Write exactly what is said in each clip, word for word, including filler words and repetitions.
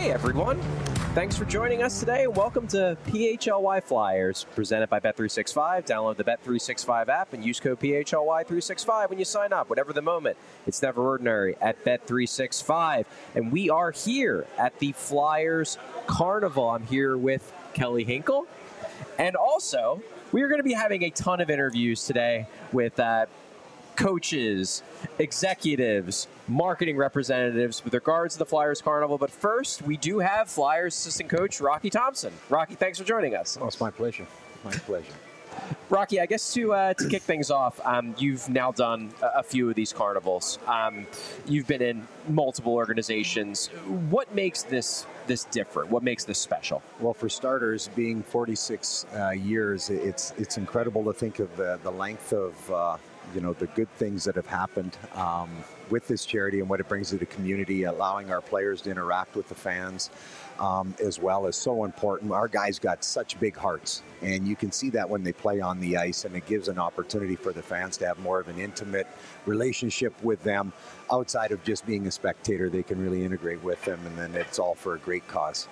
Hey everyone, thanks for joining us today. Welcome to P H L Y Flyers, presented by Bet three sixty-five. Download the Bet three sixty-five app and use code P H L Y three sixty-five when you sign up. Whatever the moment, it's never ordinary at Bet three sixty-five. And we are here at the Flyers Carnival. I'm here with Kelly Hinkle. And also, we are going to be having a ton of interviews today with uh, coaches, executives, marketing representatives with regards to the Flyers Carnival. But first, we do have Flyers assistant coach Rocky Thompson. Rocky, thanks for joining us. Oh, it's my pleasure. My pleasure. Rocky, I guess to uh, to kick things off, um, you've now done a, a few of these carnivals. Um, you've been in multiple organizations. What makes this this different? What makes this special? Well, for starters, being forty-six uh, years, it's it's incredible to think of the, the length of uh, you know the good things that have happened um, with this charity and what it brings to the community, allowing our players to interact with the fans. Um, as well is so important. Our guys got such big hearts, and you can see that when they play on the ice, and it gives an opportunity for the fans to have more of an intimate relationship with them outside of just being a spectator. They can really integrate with them, and then it's all for a great cause.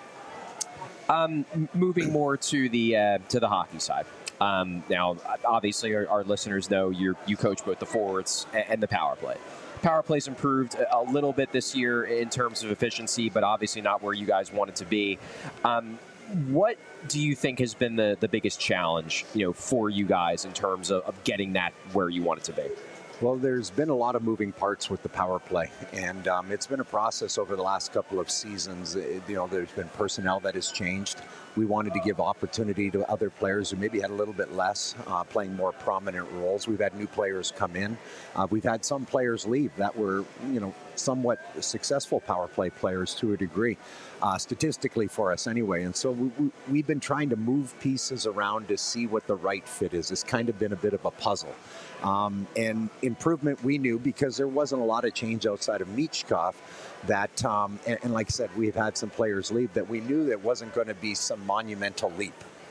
Um, moving more to the uh, to the hockey side. Um, now, obviously, our, our listeners know you you coach both the forwards and, and the power play. Power play's improved a little bit this year in terms of efficiency, but obviously not where you guys want it to be. Um, what do you think has been the, the biggest challenge, you know, for you guys in terms of, of getting that where you want it to be? Well, there's been a lot of moving parts with the power play, and um, it's been a process over the last couple of seasons. It, you know, there's been personnel that has changed. We wanted to give opportunity to other players who maybe had a little bit less, uh, playing more prominent roles. We've had new players come in. Uh, we've had some players leave that were, you know, somewhat successful power play players to a degree, uh, statistically for us anyway. And so we, we, we've been trying to move pieces around to see what the right fit is. It's kind of been a bit of a puzzle. Um, and improvement we knew because there wasn't a lot of change outside of Michkov that, um, and, and like I said, we've had some players leave that we knew that wasn't going to be some monumental leap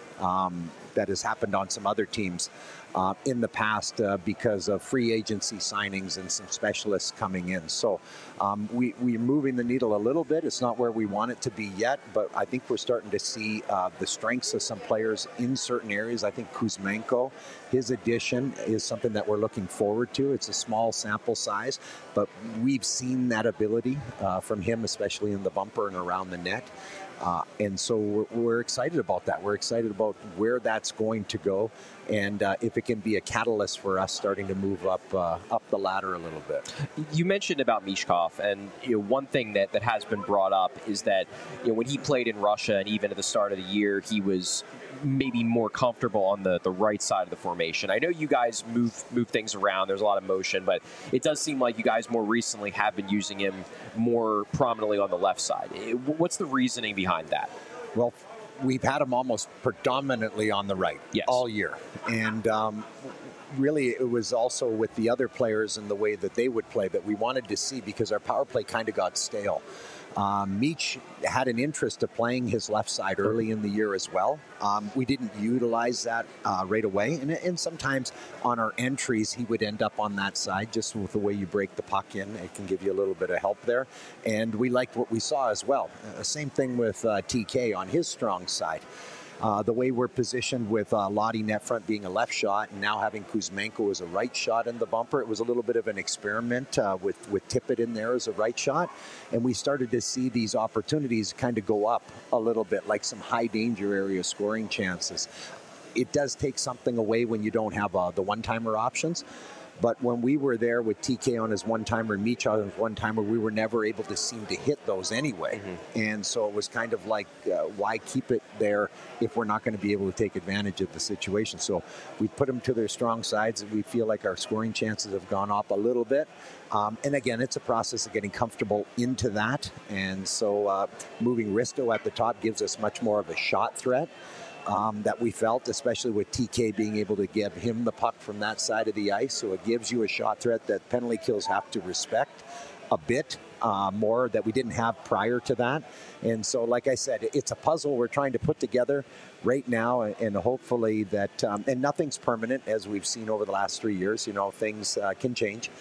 um, that has happened on some other teams uh, in the past uh, because of free agency signings and some specialists coming in. So um, we, we're moving the needle a little bit. It's not where we want it to be yet, but I think we're starting to see uh, the strengths of some players in certain areas. I think Kuzmenko, his addition is something that we're looking forward to. It's a small sample size, but we've seen that ability uh, from him, especially in the bumper and around the net. Uh, and so we're, we're excited about that. We're excited about where that's going to go, and uh, if it can be a catalyst for us starting to move up uh, up the ladder a little bit. You mentioned about Michkov, and you know, one thing that, that has been brought up is that you know, when he played in Russia, and even at the start of the year, he was maybe more comfortable on the, the right side of the formation. I know you guys move move things around. There's a lot of motion, but it does seem like you guys more recently have been using him more prominently on the left side. What's the reasoning behind that? Well, we've had him almost predominantly on the right yes. all year. And um, really it was also with the other players and the way that they would play that we wanted to see because our power play kind of got stale. Um, Meach had an interest of playing his left side early in the year as well. Um, we didn't utilize that uh, right away. And, and sometimes on our entries, he would end up on that side just with the way you break the puck in. It can give you a little bit of help there. And we liked what we saw as well. Uh, same thing with uh, T K on his strong side. Uh, the way we're positioned with uh, Lottie net front being a left shot and now having Kuzmenko as a right shot in the bumper, it was a little bit of an experiment uh, with, with Tippett in there as a right shot. And we started to see these opportunities kind of go up a little bit, like some high danger area scoring chances. It does take something away when you don't have uh, the one-timer options. But when we were there with T K on his one-timer and Meach on his one-timer, we were never able to seem to hit those anyway. Mm-hmm. And so it was kind of like, uh, why keep it there if we're not going to be able to take advantage of the situation? So we put them to their strong sides, and we feel like our scoring chances have gone up a little bit. Um, and again, it's a process of getting comfortable into that. And so uh, moving Risto at the top gives us much more of a shot threat. Um, that we felt, especially with T K being able to give him the puck from that side of the ice. So it gives you a shot threat that penalty kills have to respect a bit uh, more that we didn't have prior to that. And so, like I said, it's a puzzle we're trying to put together right now, and hopefully that, um, and nothing's permanent, as we've seen over the last three years. You know, things uh, can change.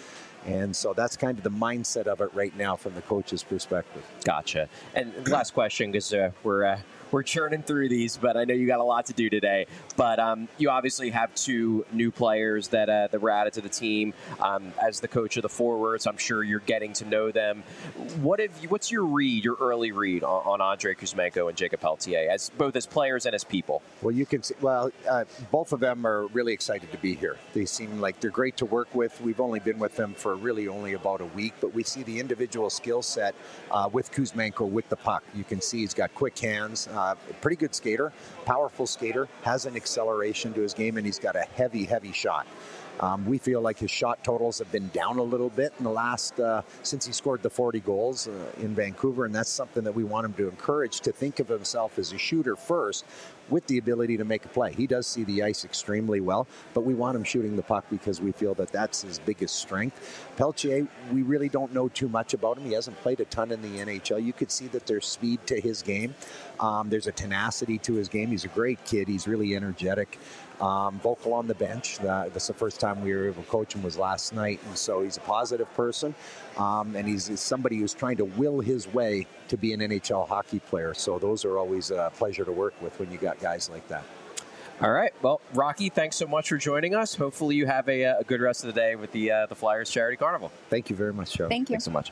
And so that's kind of the mindset of it right now from the coach's perspective. Gotcha. And last question, because uh, we're uh, we're churning through these, but I know you got a lot to do today. But um, you obviously have two new players that uh, that were added to the team. Um, as the coach of the forwards, I'm sure you're getting to know them. What have you, what's your read, your early read on, on Andrei Kuzmenko and Jacob Pelletier, as both as players and as people? Well, you can see, well, uh, both of them are really excited to be here. They seem like they're great to work with. We've only been with them for really only about a week, but we see the individual skill set uh, with Kuzmenko with the puck. You can see he's got quick hands, uh, pretty good skater, powerful skater, has an acceleration to his game, and he's got a heavy, heavy shot. Um, we feel like his shot totals have been down a little bit in the last, uh, since he scored the forty goals uh, in Vancouver, and that's something that we want him to encourage, to think of himself as a shooter first with the ability to make a play. He does see the ice extremely well, but we want him shooting the puck because we feel that that's his biggest strength. Pelletier, we really don't know too much about him. He hasn't played a ton in the N H L. You could see that there's speed to his game. Um, there's a tenacity to his game. He's a great kid. He's really energetic. Um, vocal on the bench. Uh, that's the first time we were able to coach him was last night, and so he's a positive person, um, and he's, he's somebody who's trying to will his way to be an N H L hockey player. So those are always a pleasure to work with when you got guys like that. All right. Well, Rocky, thanks so much for joining us. Hopefully you have a, a good rest of the day with the uh, the Flyers Charity Carnival. Thank you very much, Joe. Thank you. Thanks so much.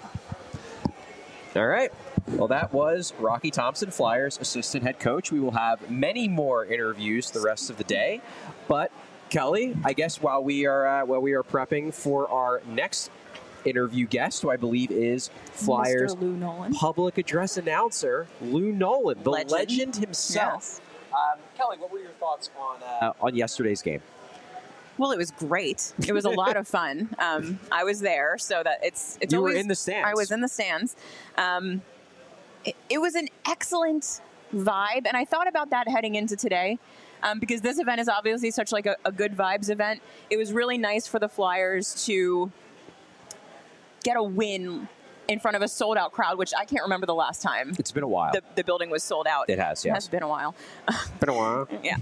All right. Well, that was Rocky Thompson, Flyers assistant head coach. We will have many more interviews the rest of the day. But, Kelly, I guess while we are uh, while we are prepping for our next interview guest, who I believe is Flyers Mister Lou Nolan. public address announcer, Lou Nolan, the legend, Legend. himself. Yes. Um, Kelly, what were your thoughts on uh, on yesterday's game? Well, it was great. It was a lot of fun. Um, I was there, so that it's it's You always, were in the stands. I was in the stands. Um, it, it was an excellent vibe, and I thought about that heading into today, um, because this event is obviously such like a, a good vibes event. It was really nice for the Flyers to get a win in front of a sold-out crowd, which I can't remember the last time It's been a while. the, the building was sold out. It has, It yes. has been a while. been a while. Yeah.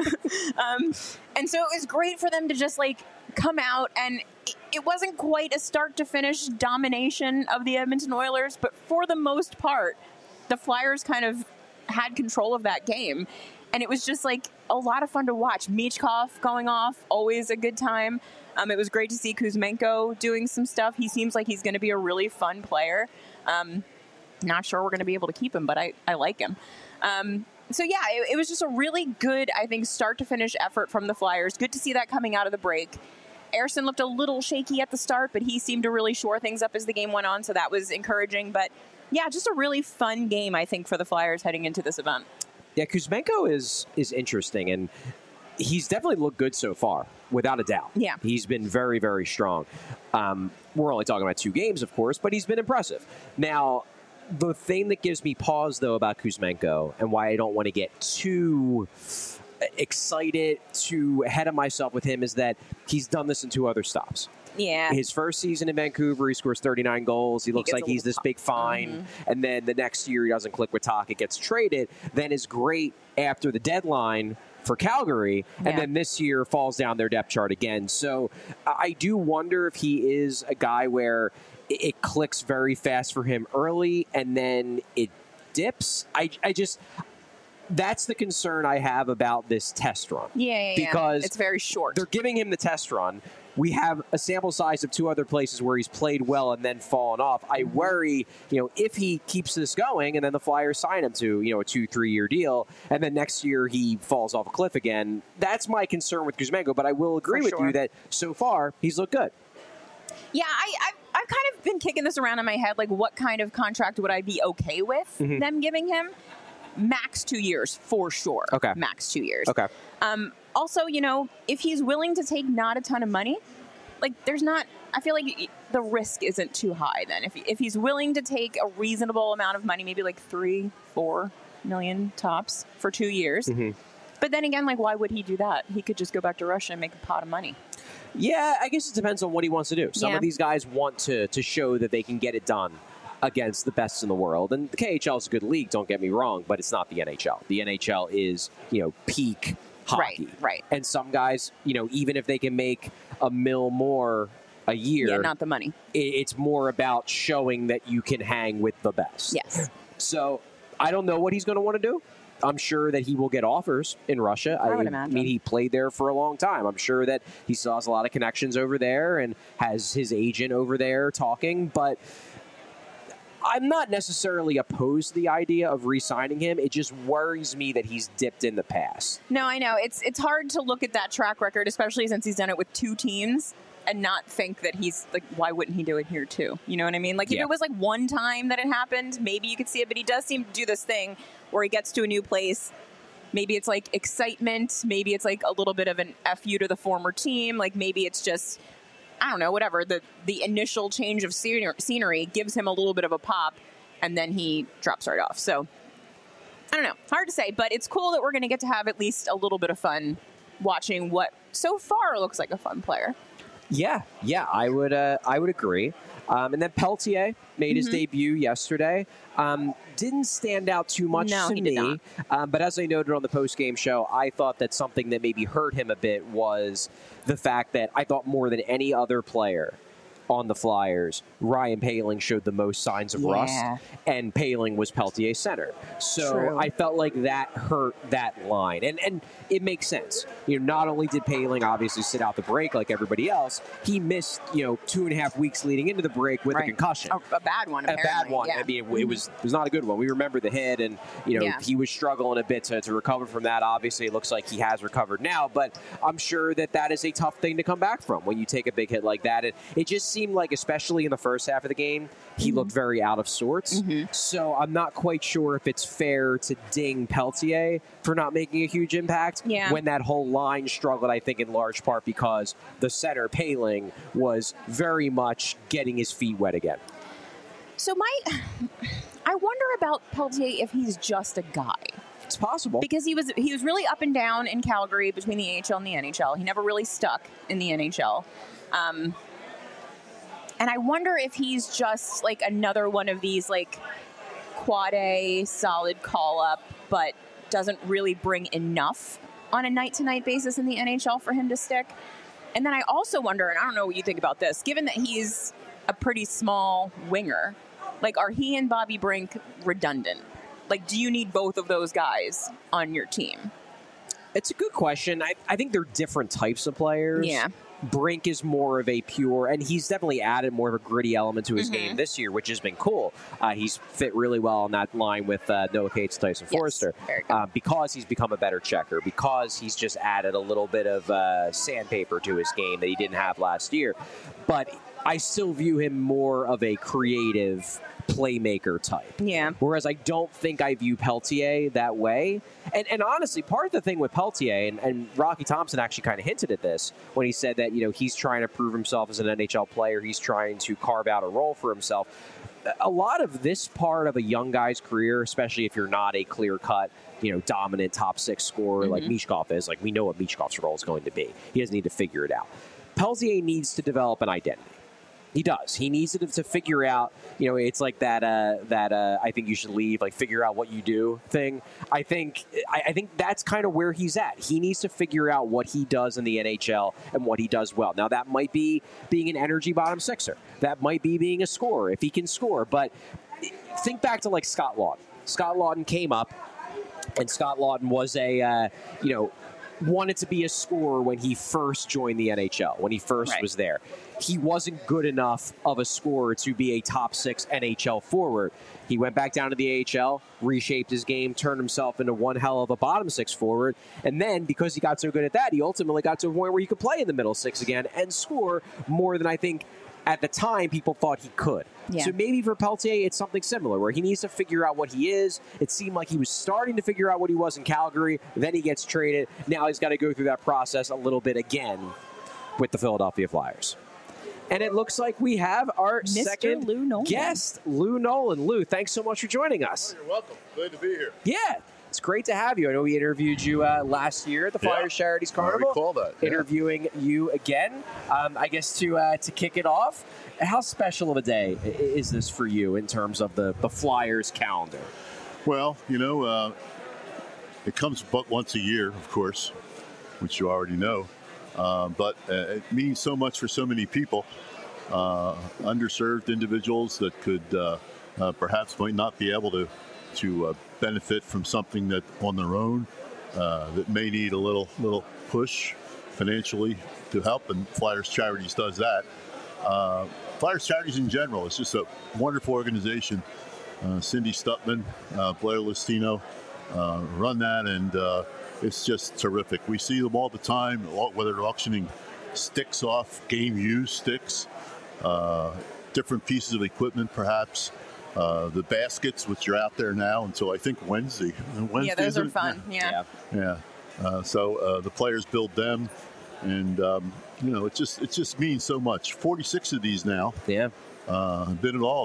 um, and so it was great for them to just like come out, and it, it wasn't quite a start to finish domination of the Edmonton Oilers, but for the most part, the Flyers kind of had control of that game. And it was just like a lot of fun to watch. Michkov going off, always a good time. Um, it was great to see Kuzmenko doing some stuff. He seems like he's going to be a really fun player. Um, not sure we're going to be able to keep him, but I, I like him. Um, so, yeah, it, it was just a really good, I think, start-to-finish effort from the Flyers. Good to see that coming out of the break. Ersson looked a little shaky at the start, but he seemed to really shore things up as the game went on, so that was encouraging. But, yeah, just a really fun game, I think, for the Flyers heading into this event. Yeah, Kuzmenko is is interesting, and he's definitely looked good so far, without a doubt. Yeah. He's been very, very strong. Um, we're only talking about two games, of course, but he's been impressive. Now, the thing that gives me pause, though, about Kuzmenko, and why I don't want to get too excited, too ahead of myself with him, is that he's done this in two other stops. Yeah. His first season in Vancouver, he scores thirty-nine goals. He looks gets like a he's little this big fine. Mm-hmm. And then the next year, he doesn't click with Taka, gets traded. Then is great after the deadline for Calgary. And Yeah. then this year falls down their depth chart again. So I do wonder if he is a guy where it, it clicks very fast for him early and then it dips. I, I just... That's the concern I have about this test run. Yeah, yeah, yeah. Because it's very short. They're giving him the test run. We have a sample size of two other places where he's played well and then fallen off. I worry, you know, if he keeps this going and then the Flyers sign him to, you know, a two, three-year deal, and then next year he falls off a cliff again. That's my concern with Kuzmenko, but I will agree For with sure. you that so far he's looked good. Yeah, I, I, I've kind of been kicking this around in my head, like what kind of contract would I be okay with Mm-hmm. them giving him? Max two years, for sure. Okay. Max two years. Okay. Um, also, you know, if he's willing to take not a ton of money, like there's not, I feel like the risk isn't too high then. If, if he's willing to take a reasonable amount of money, maybe like three, four million tops for two years. Mm-hmm. But then again, like, why would he do that? He could just go back to Russia and make a pot of money. Yeah, I guess it depends on what he wants to do. Some Yeah. of these guys want to to show that they can get it done against the best in the world. And the K H L is a good league, don't get me wrong, but it's not the N H L. The N H L is, you know, peak hockey. Right, right. And some guys, you know, even if they can make a mil more a year. Yeah, not the money. It's more about showing that you can hang with the best. Yes. So I don't know what he's going to want to do. I'm sure that he will get offers in Russia. I would I imagine. mean, he played there for a long time. I'm sure that he still has a lot of connections over there and has his agent over there talking. But I'm not necessarily opposed to the idea of re-signing him. It just worries me that he's dipped in the past. No, I know. It's it's hard to look at that track record, especially since he's done it with two teams, and not think that he's like, why wouldn't he do it here too? You know what I mean? Like, if Yeah. it was like one time that it happened, maybe you could see it, but he does seem to do this thing where he gets to a new place. Maybe it's like excitement. Maybe it's like a little bit of an F you to the former team. Like, maybe it's just, I don't know, whatever. The, the initial change of scenery, scenery gives him a little bit of a pop, and then he drops right off. So, I don't know. Hard to say, but it's cool that we're going to get to have at least a little bit of fun watching what so far looks like a fun player. Yeah, yeah, I would, uh, I would agree. Um, and then Peltier made his Mhm. debut yesterday. Um, didn't stand out too much No, to he me, did not. Um, but as I noted on the post-game show, I thought that something that maybe hurt him a bit was the fact that I thought more than any other player on the Flyers, Ryan Poehling showed the most signs of Yeah. rust, and Poehling was Peltier's center. So True. I felt like that hurt that line, and and it makes sense. You know, not only did Poehling obviously sit out the break like everybody else, he missed you know two and a half weeks leading into the break with Right. a concussion. A, a bad one, A apparently. bad one. Yeah. I mean, it, it was it was not a good one. We remember the hit, and you know Yeah. he was struggling a bit to, to recover from that. Obviously, it looks like he has recovered now, but I'm sure that that is a tough thing to come back from when you take a big hit like that. And it just seemed like, especially in the first half of the game, he Mm-hmm. looked very out of sorts. So I'm not quite sure if it's fair to ding Peltier for not making a huge impact Yeah. when that whole line struggled, I think, in large part because the center, Poehling, was very much getting his feet wet again. So my, I wonder about Peltier if he's just a guy, It's possible. because he was he was really up and down in Calgary between the A H L and the N H L. He never really stuck in the N H L. Um, and I wonder if he's just like another one of these like quad A solid call up, but doesn't really bring enough on a night to night basis in the N H L for him to stick. And then I also wonder, and I don't know what you think about this, given that he's a pretty small winger, like, are he and Bobby Brink redundant? Like, do you need both of those guys on your team? It's a good question. I, I think they're different types of players. Yeah. Brink is more of a pure, and he's definitely added more of a gritty element to his Mhm. game this year, which has been cool. Uh, he's fit really well on that line with uh, Noah Cates, Tyson Yes, Forrester, very good. uh, because he's become a better checker, because he's just added a little bit of uh, sandpaper to his game that he didn't have last year. But I still view him more of a creative playmaker type. Yeah. Whereas I don't think I view Peltier that way. And, and honestly, part of the thing with Peltier, and, and Rocky Thompson actually kind of hinted at this when he said that, you know, he's trying to prove himself as an N H L player. He's trying to carve out a role for himself. A lot of this part of a young guy's career, especially if you're not a clear-cut, you know, dominant top six scorer like Michkov is, like we know what Michkov's role is going to be. He doesn't need to figure it out. Peltier needs to develop an identity. He does. He needs to, to figure out, you know, it's like that, uh, that uh, I think you should leave, like figure out what you do thing. I think I, I think that's kind of where he's at. He needs to figure out what he does in the N H L and what he does well. Now, that might be being an energy bottom sixer. That might be being a scorer, if he can score. But think back to, like, Scott Laughton. Scott Laughton came up, and Scott Laughton was a, uh, you know, wanted to be a scorer when he first joined the N H L, when he first Right. was there. He wasn't good enough of a scorer to be a top six N H L forward. He went back down to the A H L, reshaped his game, turned himself into one hell of a bottom six forward. And then, because he got so good at that, he ultimately got to a point where he could play in the middle six again and score more than I think at the time people thought he could. Yeah. So maybe for Peltier, it's something similar, where he needs to figure out what he is. It seemed like he was starting to figure out what he was in Calgary. Then he gets traded. Now he's got to go through that process a little bit again with the Philadelphia Flyers. And it looks like we have our Mister second Lou Nolan. guest, Lou Nolan. Lou, thanks so much for joining us. You're welcome. Glad to be here. Yeah, it's great to have you. I know we interviewed you uh, last year at the Yeah. Flyers Charities I Carnival. recall that, yeah. Interviewing you again. Um, I guess to uh, to kick it off, how special of a day i- is this for you in terms of the, the Flyers calendar? Well, you know, uh, it comes but once a year, of course, which you already know. uh, but uh, it means so much for so many people, uh, underserved individuals that could uh, uh, perhaps might not be able to to uh, benefit from something that on their own uh, that may need a little little push financially to help, and Flyers Charities does that. Uh, Flyers Charities in general is just a wonderful organization. Uh, Cindy Stutman, uh, Blair Listino uh, run that, and uh, it's just terrific. We see them all the time, whether they're auctioning sticks off, game used sticks, uh, different pieces of equipment perhaps. Uh, the baskets, which are out there now until I think Wednesday. Wednesday yeah, those are fun. Yeah. Yeah. yeah. Uh, so uh, the players build them, and um, you know, it just it just means so much. forty-six of these now. Yeah. Uh, I've been in all of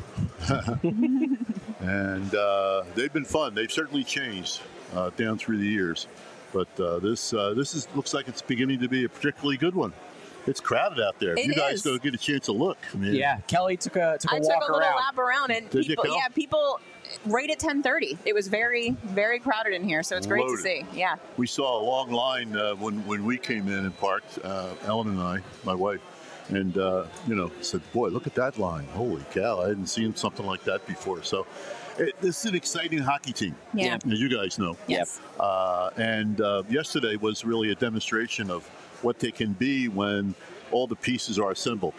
them, and uh, they've been fun. They've certainly changed uh, down through the years, but uh, this uh, this is looks like it's beginning to be a particularly good one. It's crowded out there. If It you guys is. go get a chance to look. I mean, Yeah, Kelly took a took a I walk took a little around. lap around, and Did you, people, Kel? yeah, people right at ten thirty. It was very, very crowded in here, so it's great Loaded. to see. Yeah. We saw a long line uh, when when we came in and parked. Uh, Ellen and I, my wife, and uh, you know, said, "Boy, look at that line! Holy cow! I hadn't seen something like that before." So, it, this is an exciting hockey team. Yeah. as you guys know. Yes. Uh, and uh, yesterday was really a demonstration of what they can be when all the pieces are assembled.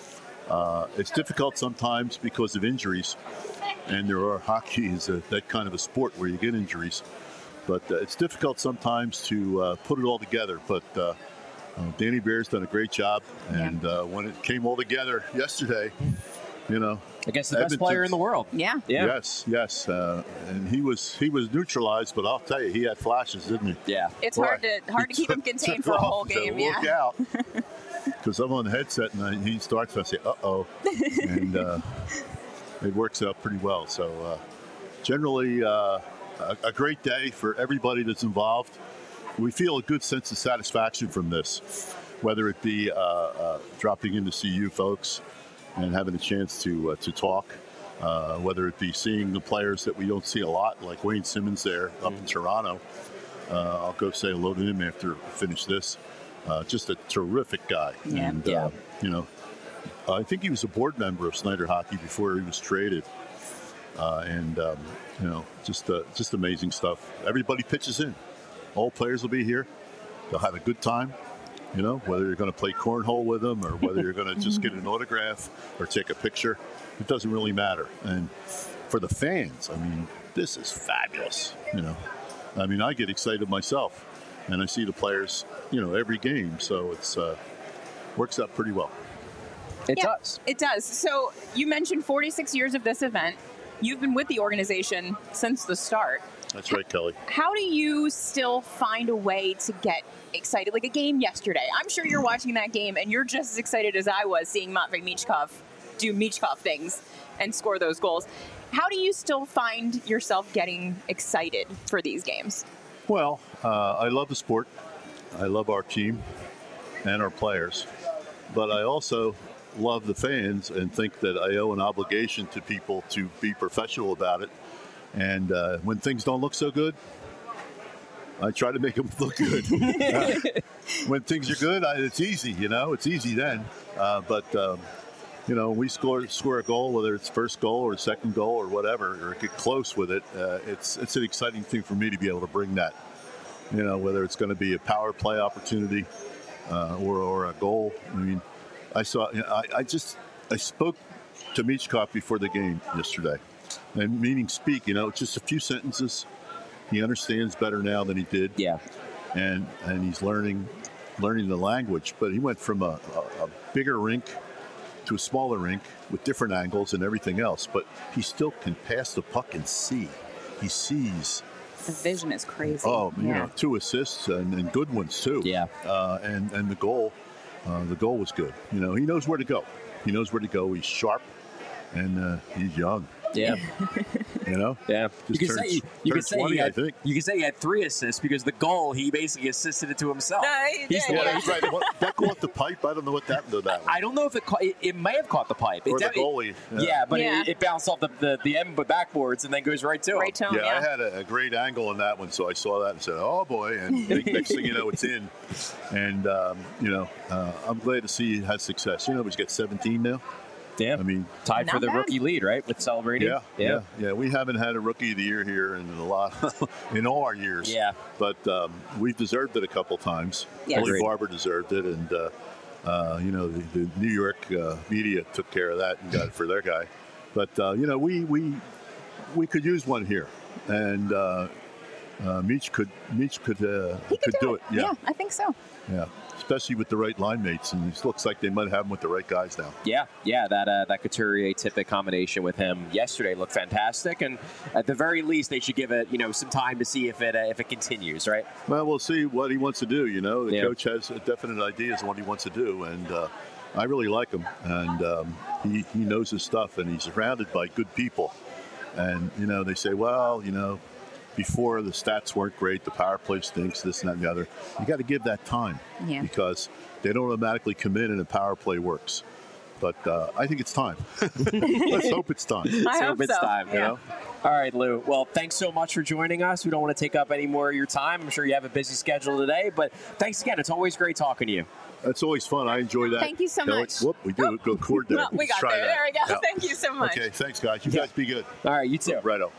Uh, it's difficult sometimes because of injuries, and there are hockey is a, that kind of a sport where you get injuries. But uh, it's difficult sometimes to uh, put it all together. But uh, uh, Danny Bear's done a great job, and uh, when it came all together yesterday, you know, Against the best Edmonton- player in the world. Yeah. Yeah. yes, yes, uh, and he was he was neutralized, but I'll tell you, he had flashes, didn't he? Yeah. It's Boy, hard to hard to keep him he contained took for a off whole and said, game. Look Yeah. out. Because I'm on the headset and I, he starts, and I say, uh-oh. And uh, it works out pretty well. So uh, generally, uh, a, a great day for everybody that's involved. We feel a good sense of satisfaction from this, whether it be uh, uh, dropping in to see you folks and having a chance to, uh, to talk, uh, whether it be seeing the players that we don't see a lot, like Wayne Simmons there up in Toronto. Uh, I'll go say hello to him after we finish this. Uh, just a terrific guy. Yeah. And, Yeah. Uh, you know, I think he was a board member of Snyder Hockey before he was traded. Uh, and, um, you know, just uh, just amazing stuff. Everybody pitches in. All players will be here. They'll have a good time, you know, whether you're going to play cornhole with them or whether you're going to just get an autograph or take a picture. It doesn't really matter. And for the fans, I mean, this is fabulous, you know. I mean, I get excited myself. And I see the players, you know, every game. So it's uh, works out pretty well. It Yeah, does. It does. So you mentioned forty-six years of this event. You've been with the organization since the start. That's right, Kelly. How do you still find a way to get excited? Like a game yesterday. I'm sure you're watching that game and you're just as excited as I was seeing Matvei Michkov do Michkov things and score those goals. How do you still find yourself getting excited for these games? Well, uh, I love the sport. I love our team and our players. But I also love the fans and think that I owe an obligation to people to be professional about it. And uh, when things don't look so good, I try to make them look good. Uh, when things are good, I, it's easy, you know. It's easy then. Uh, but, um, you know, we score score a goal, whether it's first goal or second goal or whatever, or get close with it. Uh, it's it's an exciting thing for me to be able to bring that. You know, whether it's going to be a power play opportunity uh, or or a goal. I mean, I saw. You know, I, I just I spoke to Michkov before the game yesterday, and meaning speak. You know, just a few sentences. He understands better now than he did. Yeah. And and he's learning learning the language. But he went from a, a, a bigger rink to a smaller rink with different angles and everything else, but he still can pass the puck and see. He sees. The vision is crazy. Oh, you Yeah. know, two assists and, and good ones too. Yeah. Uh, and and the goal, uh, the goal was good. You know, he knows where to go. He knows where to go. He's sharp, and uh, he's young. Yeah. You know? Yeah. Just You could turned- say you, you turned could say twenty, he I had, think. you could say he had three assists because the goal he basically assisted it to himself. No, he He's did, the one Yeah, yeah. he's right. What, that go off the pipe? I don't know what happened to that one. I don't know if it caught, it, it may have caught the pipe. It Or the definitely- goalie. Yeah, Yeah. but Yeah. It, it bounced off the, the, the end backboards and then goes right to him. Right to him, Yeah, yeah. I had a, a great angle on that one, so I saw that and said, "Oh boy!" And next thing you know, it's in. And um, you know, uh, I'm glad to see he has success. You know, he's got seventeen now. Yeah. I mean, Tied for Not the bad. rookie lead, right? With celebrating. yeah, yeah, yeah. We haven't had a rookie of the year here in a lot, in all our years. Yeah. But um, we've deserved it a couple times. Yeah. Billy Agreed. Barber deserved it, and uh, uh, you know, the, the New York uh, media took care of that and got it for their guy. But uh, you know, we we we could use one here, and uh, uh, Meach could Meach could uh, He could, do it. Yeah, I think so. yeah. Especially with the right line mates, and it looks like they might have him with the right guys now. Yeah, yeah, that uh, that Couturier Tippett combination with him yesterday looked fantastic, and at the very least, they should give it you know some time to see if it uh, if it continues, right? Well, we'll see what he wants to do. You know, the Yeah. coach has definite ideas on what he wants to do, and uh, I really like him. And um, he he knows his stuff, and he's surrounded by good people. And you know, they say, well, you know, before the stats weren't great, the power play stinks, this and that and the other. You got to give that time Yeah. because they don't automatically come in and the power play works. But uh, I think it's time. Let's hope it's time. I So hope it's so. time, you Yeah. know. All right, Lou. Well, thanks so much for joining us. We don't want to take up any more of your time. I'm sure you have a busy schedule today, but thanks again. It's always great talking to you. That's always fun. I enjoy that. Thank you so Kelly. much. Whoop, we do go chord there. Well, we Let's got try there. that. There we go. Yeah. Thank you so much. Okay, thanks, guys. You Yeah. guys be good. All right, you too. Righto.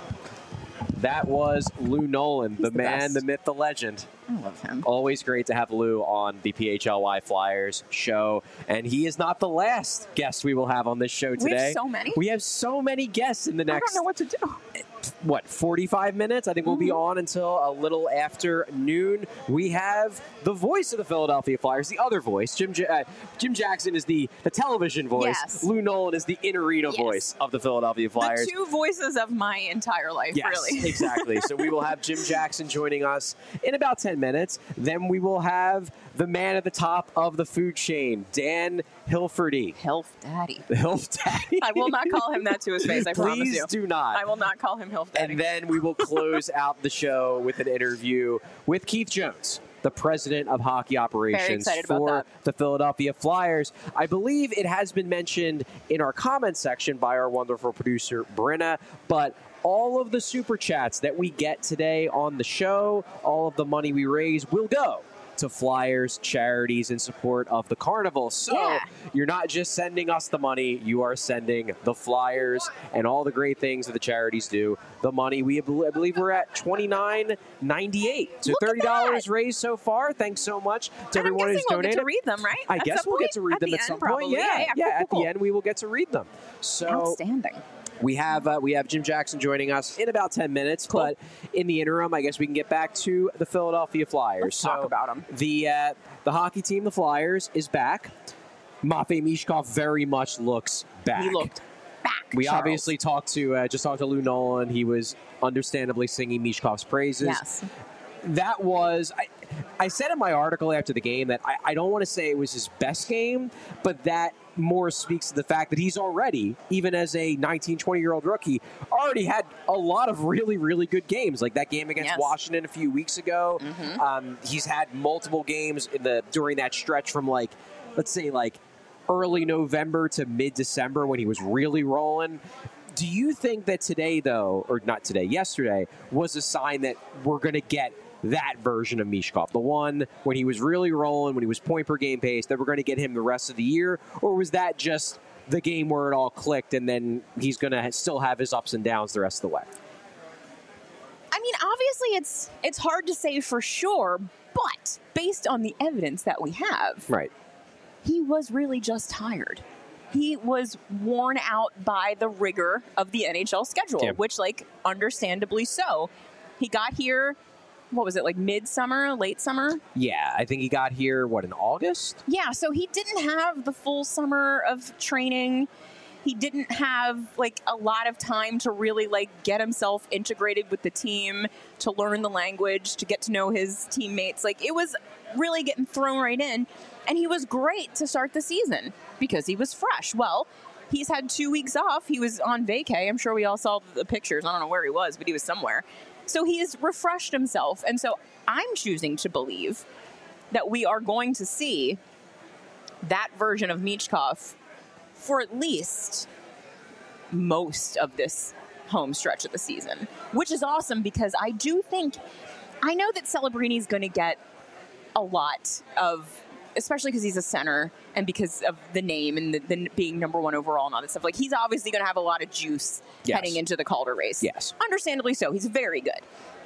That was Lou Nolan, the, the man, best. the myth, the legend. I love him. Always great to have Lou on the P H L Y Flyers show. And he is not the last guest we will have on this show today. We have so many. We have so many guests in the I next, don't know what to do. what, forty-five minutes? I think we'll be on until a little after noon. We have the voice of the Philadelphia Flyers, the other voice. Jim Ja- uh, Jim Jackson is the, the television voice. Yes. Lou Nolan is the in-arena Yes. voice of the Philadelphia Flyers. The two voices of my entire life, Yes, really. exactly. So we will have Jim Jackson joining us in about ten minutes. Then we will have the man at the top of the food chain, Dan Hilferty. Hilf Daddy. The Hilf Daddy. I will not call him that to his face, I promise Please you. do not. I will not call him Hilf Daddy. And then we will close out the show with an interview with Keith Jones, the president of hockey operations excited about for that. the Philadelphia Flyers. I believe it has been mentioned in our comments section by our wonderful producer, Brenna, but all of the super chats that we get today on the show, all of the money we raise will go to Flyers charities in support of the Carnival. So Yeah. you're not just sending us the money, you are sending the Flyers and all the great things that the charities do the money. We I believe we're at twenty-nine ninety-eight. So Look at thirty dollars that. raised so far. Thanks so much to And I'm everyone who's guessing we'll donated. get to read them, right? I At guess some we'll get point? to read At them the at end, some probably. point. Yeah, Yeah, yeah, cool, at cool, the end we will get to read them. So Outstanding. we have uh, we have Jim Jackson joining us in about ten minutes, Cool. but in the interim, I guess we can get back to the Philadelphia Flyers. Let's talk so about 'em. The uh, the hockey team, the Flyers, is back. Matvei Mishkov very much looks back. He looked back. We Charles. obviously talked to uh, just talked to Lou Nolan. He was understandably singing Mishkov's praises. Yes. That was I, I said in my article after the game that I, I don't want to say it was his best game, but that more speaks to the fact that he's already, even as a nineteen, twenty-year-old rookie, already had a lot of really, really good games. Like that game against Yes. Washington a few weeks ago. Mhm. Um, he's had multiple games in the during that stretch from like, let's say like early November to mid-December when he was really rolling. Do you think that today, though, or not today, yesterday, was a sign that we're going to get that version of Mishkov, the one when he was really rolling, when he was point per game pace, that we're going to get him the rest of the year? Or was that just the game where it all clicked and then he's going to still have his ups and downs the rest of the way? I mean, obviously, it's it's hard to say for sure, but based on the evidence that we have, Right. he was really just tired. He was worn out by the rigor of the N H L schedule, Yeah. which, like, understandably so. He got here, what was it, like midsummer, late summer? Yeah, I think he got here, what, in August? Yeah, so he didn't have the full summer of training. He didn't have like a lot of time to really like get himself integrated with the team, to learn the language, to get to know his teammates. Like it was really getting thrown right in, and he was great to start the season because he was fresh. Well, he's had two weeks off. He was on vacay. I'm sure we all saw the pictures. I don't know where he was, but he was somewhere. So he has refreshed himself. And so I'm choosing to believe that we are going to see that version of Michkov for at least most of this home stretch of the season, which is awesome because I do think, I know that Celebrini is going to get a lot of, especially because he's a center and because of the name and the, the being number one overall and all that stuff. Like, he's obviously going to have a lot of juice yes. heading into the Calder race. Yes. Understandably so. He's very good.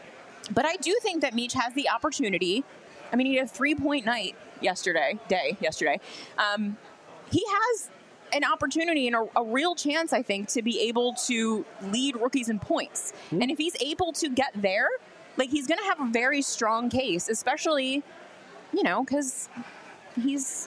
But I do think that Meach has the opportunity. I mean, he had a three-point night yesterday, day yesterday. Um, he has an opportunity and a, a real chance, I think, to be able to lead rookies in points. Mm-hmm. And if he's able to get there, like, he's going to have a very strong case, especially, you know, because he's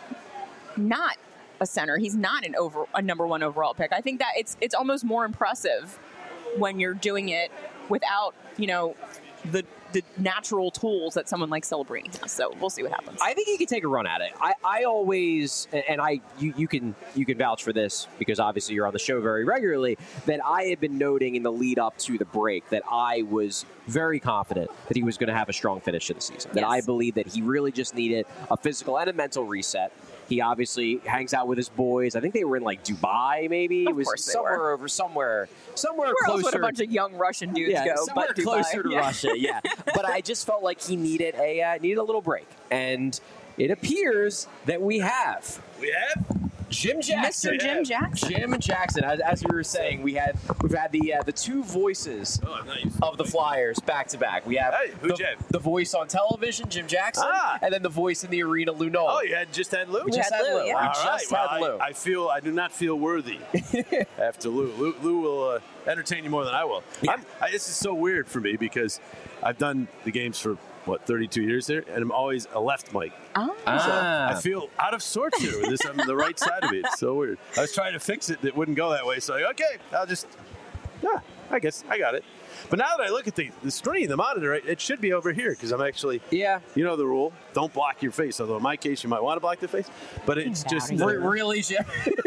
not a center. He's not an over a number one overall pick. I think that it's it's almost more impressive when you're doing it without, you know, the the natural tools that someone like Celebrini has. So we'll see what happens. I think he can take a run at it. I, I always, and I you, you can you can vouch for this because obviously you're on the show very regularly, that I had been noting in the lead up to the break that I was very confident that he was going to have a strong finish to the season. That yes. I believe that he really just needed a physical and a mental reset. He obviously hangs out with his boys. I think they were in like Dubai, maybe. Of it was course they somewhere were. over somewhere, somewhere Where closer. else would a bunch of young Russian dudes yeah, go? somewhere But Dubai. closer to yeah. Russia. Yeah, but I just felt like he needed a uh, needed a little break, and it appears that we have. We have Jim Jackson. Mister Jim Jackson. Jim Jackson. As, as we were saying, we had we've had the uh, the two voices Oh, I'm not used to of the Flyers back to back. We have Hey, who'd the, you have? the voice on television, Jim Jackson, Ah. and then the voice in the arena, Lou Noel. Oh, you had just had Lou? We just had had Lou, Lou. yeah. We All just right. had Well, Lou. I, I feel I do not feel worthy after Lou. Lou, Lou will uh, entertain you more than I will. Yeah. I'm, I, this is so weird for me because I've done the games for what thirty-two years there, and I'm always a left mic. Oh. Ah. I feel out of sorts here with this on the right side of me. It's so weird. I was trying to fix it, that wouldn't go that way. So, like, okay, I'll just, yeah, I guess I got it. But now that I look at the, the screen, the monitor, it, it should be over here because I'm actually, Yeah. you know the rule, don't block your face. Although in my case, you might want to block the face, but it's Get just outta Re- really, Jim?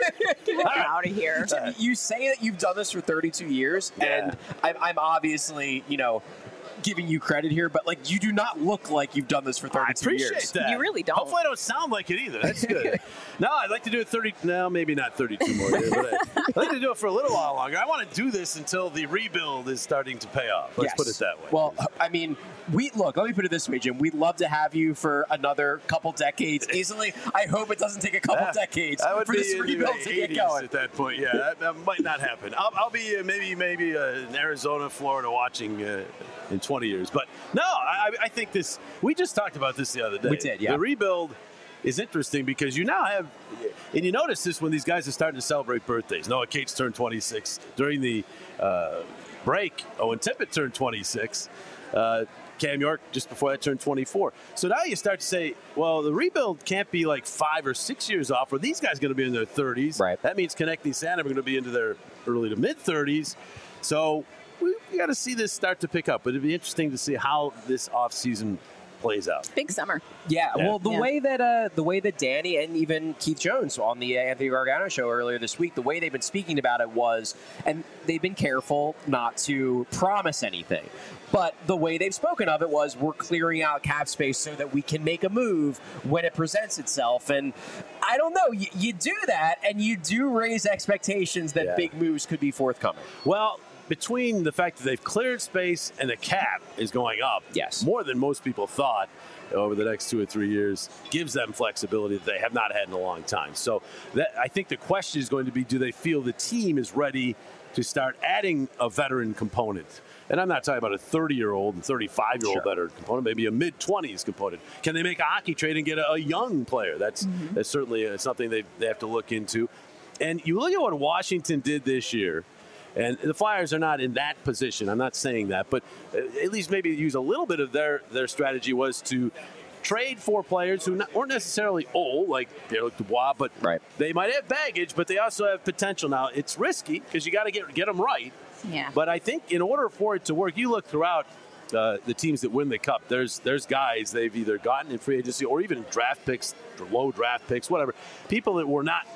Get out of here. Jim, you say that you've done this for thirty-two years, Yeah. and I'm, I'm obviously, you know, giving you credit here, but like you do not look like you've done this for I thirty-two appreciate years. that. You really don't. Hopefully, I don't sound like it either. That's good. No, I'd like to do it thirty. No, maybe not thirty-two more years. But I, I'd like to do it for a little while longer. I want to do this until the rebuild is starting to pay off. Let's Yes. put it that way. Well, I mean, we look. Let me put it this way, Jim. We'd love to have you for another couple decades easily. I hope it doesn't take a couple Ah, decades I would for be this in the rebuild to get eighties going. at that point. Yeah, that, that might not happen. I'll, I'll be uh, maybe maybe uh, in Arizona, Florida, watching uh, in twenty years. But no, I, I think this. We just talked about this the other day. We did, yeah. The rebuild is interesting because you now have, and you notice this when these guys are starting to celebrate birthdays. Noah Cates turned twenty-six during the uh, break. Owen Tippett turned twenty-six. Uh, Cam York just before that turned twenty-four. So now you start to say, well, the rebuild can't be like five or six years off, where these guys are going to be in their thirties. Right. That means Connecting Santa are going to be into their early to mid thirties. So we, we got to see this start to pick up. But it'd be interesting to see how this offseason plays out. Big summer. Yeah, Yeah. well, the Yeah. way that uh, the way that Danny and even Keith Jones on the uh, Anthony Gargano show earlier this week, the way they've been speaking about it was, and they've been careful not to promise anything, but the way they've spoken of it was, we're clearing out cap space so that we can make a move when it presents itself. And I don't know, you, you do that, and you do raise expectations that Yeah. big moves could be forthcoming. Well, between the fact that they've cleared space and the cap is going up, Yes. more than most people thought over the next two or three years, gives them flexibility that they have not had in a long time. So that, I think the question is going to be, do they feel the team is ready to start adding a veteran component? And I'm not talking about a thirty-year-old and thirty-five-year-old Sure. veteran component, maybe a mid-twenties component. Can they make a hockey trade and get a, a young player? That's, Mm-hmm. that's certainly uh, something they, they have to look into. And you look at what Washington did this year, and the Flyers are not in that position. I'm not saying that, but at least maybe use a little bit of their, their strategy was to trade for players who not, weren't necessarily old, like Pierre-Luc Dubois, but Right. they might have baggage, but they also have potential. Now, it's risky because you got to get get them right. Yeah. But I think in order for it to work, you look throughout uh, the teams that win the Cup, there's there's guys they've either gotten in free agency or even draft picks, low draft picks, whatever, people that were not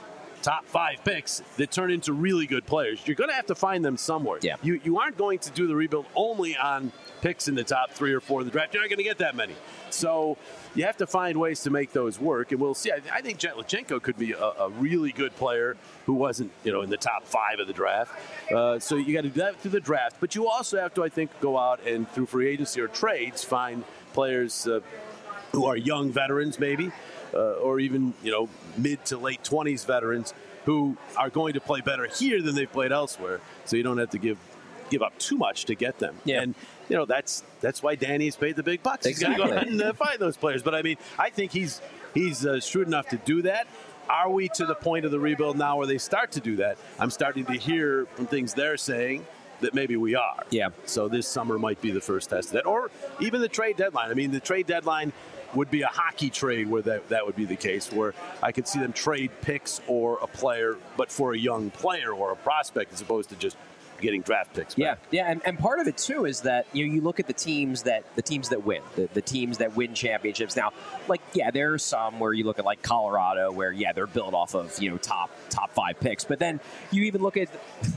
top five picks that turn into really good players. You're going to have to find them somewhere. Yeah. You you aren't going to do the rebuild only on picks in the top three or four of the draft. You're not going to get that many. So you have to find ways to make those work, and we'll see. I, I think Jetlichenko could be a, a really good player who wasn't, you know, in the top five of the draft. Uh, so you got to do that through the draft, but you also have to, I think, go out and through free agency or trades find players uh, who are young veterans, maybe, uh, or even, you know, mid to late twenties veterans who are going to play better here than they've played elsewhere. So you don't have to give give up too much to get them. Yeah. And you know, that's that's why Danny's paid the big bucks. Exactly. He's got to go out and uh, find those players. But I mean, I think he's he's uh, shrewd enough to do that. Are we to the point of the rebuild now where they start to do that? I'm starting to hear from things they're saying that maybe we are. Yeah. So this summer might be the first test of that, or even the trade deadline. I mean, the trade deadline would be a hockey trade where that, that would be the case, where I could see them trade picks or a player, but for a young player or a prospect as opposed to just getting draft picks back. Yeah, yeah, and, and part of it too is that you know you look at the teams that the teams that win, the, the teams that win championships. Now, like yeah, there are some where you look at like Colorado, where yeah they're built off of you know top top five picks, but then you even look at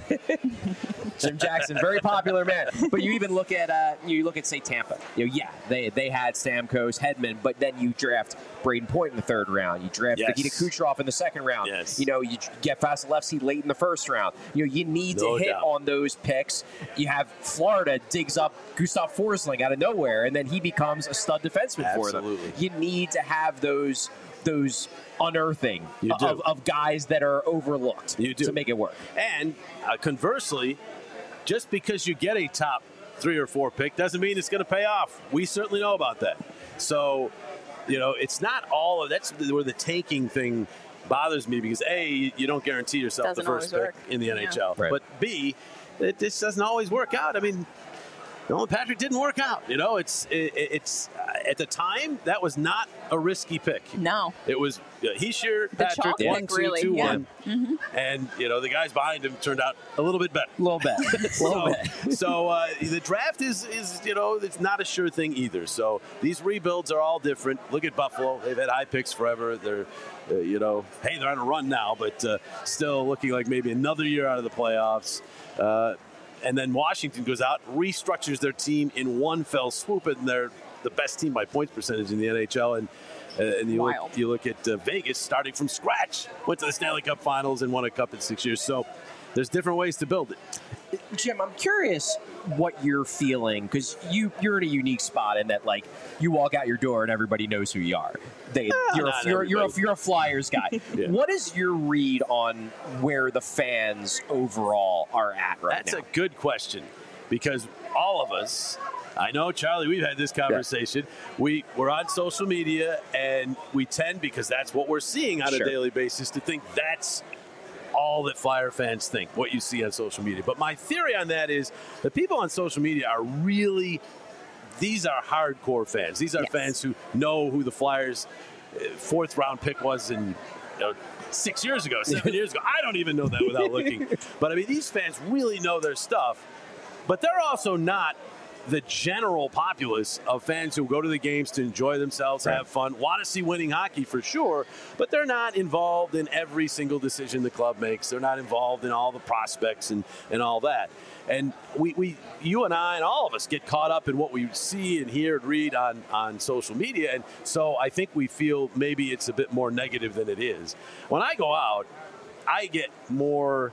Jim Jackson, very popular man. But you even look at uh, you look at say Tampa. You know, yeah, they they had Stamkos, Hedman, but then you draft Braden Point in the third round. You draft Yes. Nikita Kucherov in the second round. Yes. You know, you get Vasilevsky late in the first round. You know, you need No to hit doubt. on those picks. You have Florida digs up Gustav Forsling out of nowhere, and then he becomes a stud defenseman for them. Absolutely. You need to have those those unearthing You do. of, of guys that are overlooked You do. to make it work. And uh, conversely, just because you get a top three or four pick doesn't mean it's going to pay off. We certainly know about that. So, you know, it's not all of that's where the tanking thing bothers me because A, you don't guarantee yourself Doesn't the first always pick work. in the N H L. Right. But B, it just doesn't always work out. I mean, Nolan Patrick didn't work out. You know, it's it, it's uh, at the time that was not a risky pick. No. It was uh, Hischier, The Patrick, chalk one, pick, two, really, two, yeah. one, and you know the guys behind him turned out a little bit better. A little bit. A little So, bit. so uh, the draft is is you know it's not a sure thing either. So these rebuilds are all different. Look at Buffalo; they've had high picks forever. They're uh, you know hey they're on a run now, but uh, still looking like maybe another year out of the playoffs. Uh, And then Washington goes out, restructures their team in one fell swoop, and they're the best team by points percentage in the N H L. And uh, and you look, Wild. you look at uh, Vegas starting from scratch, went to the Stanley Cup Finals and won a cup in six years. So there's different ways to build it. Jim, I'm curious what you're feeling because you you're in a unique spot in that like you walk out your door and everybody knows who you are. They you're a, not you're, you're, a, everybody. you're a Flyers guy. Yeah. What is your read on where the fans overall are at right That's now? a good question because all of us, I know, Charlie, we've had this conversation. We, we're on social media and we tend, because that's what we're seeing on Sure. a daily basis, to think that's all that Flyer fans think, what you see on social media. But my theory on that is the people on social media are really, these are hardcore fans. These are Yes. fans who know who the Flyers' uh, fourth round pick was in you know, six years ago, seven years ago. I don't even know that without looking. But I mean, these fans really know their stuff. But they're also not the general populace of fans who go to the games to enjoy themselves, Right. have fun, want to see winning hockey for sure, but they're not involved in every single decision the club makes. They're not involved in all the prospects and, and all that. And we, we, you and I and all of us get caught up in what we see and hear and read on, on social media. And so I think we feel maybe it's a bit more negative than it is. When I go out, I get more,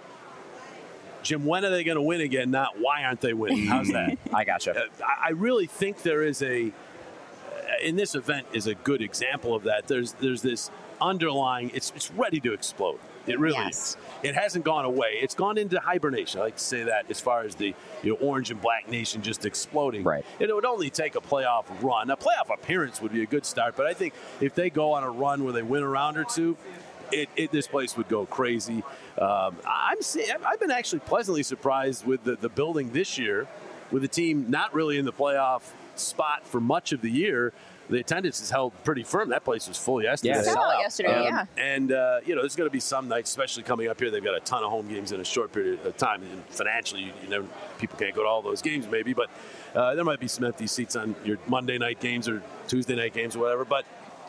Jim, when are they going to win again? Not why aren't they winning? How's that? I gotcha. Uh, I I really think there is a, in this event is a good example of that. There's there's this underlying, it's it's ready to explode. It really Yes. is. It hasn't gone away. It's gone into hibernation. I like to say that as far as the you know, orange and black nation just exploding. Right. It would only take a playoff run. A playoff appearance would be a good start, but I think if they go on a run where they win a round or two, It, it, this place would go crazy. Um, I'm see, I've been actually pleasantly surprised with the, the building this year, with the team not really in the playoff spot for much of the year. The attendance is held pretty firm. That place was full yesterday. Yeah, Sell sellout. it yesterday, Um, yeah. And, uh, you know, there's going to be some nights, especially coming up here, they've got a ton of home games in a short period of time. And financially, you, you know, people can't go to all those games maybe, but uh, there might be some empty seats on your Monday night games or Tuesday night games or whatever. But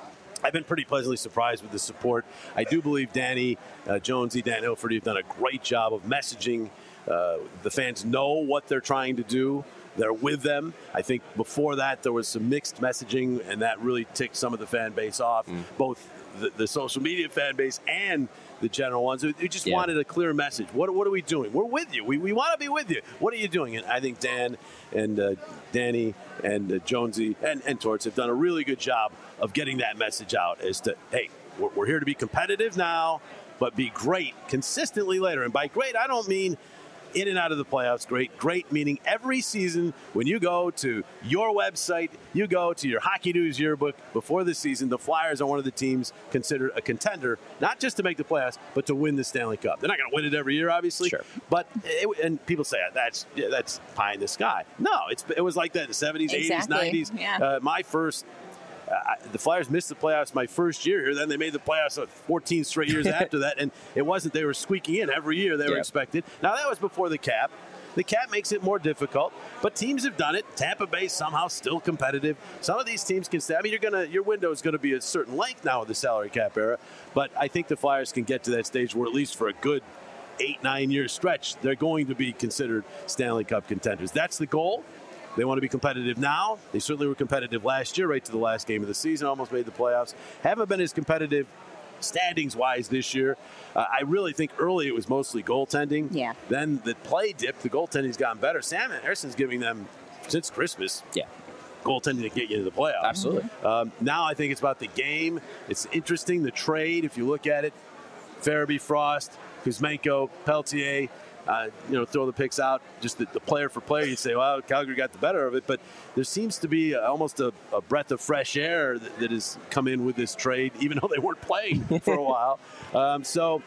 I've been pretty pleasantly surprised with the support. I do believe Danny uh, Jonesy, Dan Hilferty have done a great job of messaging. Uh, the fans know what they're trying to do. They're with them. I think before that there was some mixed messaging, and that really ticked some of the fan base off, mm. both the, the social media fan base and the general ones who just yeah. wanted a clear message. What, what are we doing? We're with you. We, we want to be with you. What are you doing? And I think Dan and uh, Danny and uh, Jonesy and, and Torts have done a really good job of getting that message out as to, hey, we're, we're here to be competitive now, but be great consistently later. And by great, I don't mean in and out of the playoffs. Great, great meaning every season when you go to your website, you go to your Hockey News yearbook before the season, the Flyers are one of the teams considered a contender, not just to make the playoffs, but to win the Stanley Cup. They're not going to win it every year, obviously. Sure. But it, and people say that's yeah, that's pie in the sky. No, it's it was like that in the seventies, exactly. eighties, nineties. Yeah. Uh, my first. Uh, the Flyers missed the playoffs my first year here. Then they made the playoffs fourteen straight years after that. And it wasn't they were squeaking in every year they were yep. expected. Now, that was before the cap. The cap makes it more difficult, but teams have done it. Tampa Bay somehow still competitive. Some of these teams can stay. I mean, you're gonna your window is going to be a certain length now with the salary cap era. But I think the Flyers can get to that stage where at least for a good eight, nine-year stretch, they're going to be considered Stanley Cup contenders. That's the goal. They want to be competitive now. They certainly were competitive last year, right to the last game of the season, almost made the playoffs. Haven't been as competitive standings-wise this year. Uh, I really think early it was mostly goaltending. Yeah. Then the play dipped. The goaltending's gotten better. Sam Harrison's giving them, since Christmas, yeah. goaltending to get you into the playoffs. Absolutely. Um, now I think it's about the game. It's interesting, the trade, if you look at it. Farabee, Frost, Kuzmenko, Peltier, Uh, you know, throw the picks out, just the, the player for player. You say, well, Calgary got the better of it. But there seems to be almost a, a breath of fresh air that, that has come in with this trade, even though they weren't playing for a while. Um, so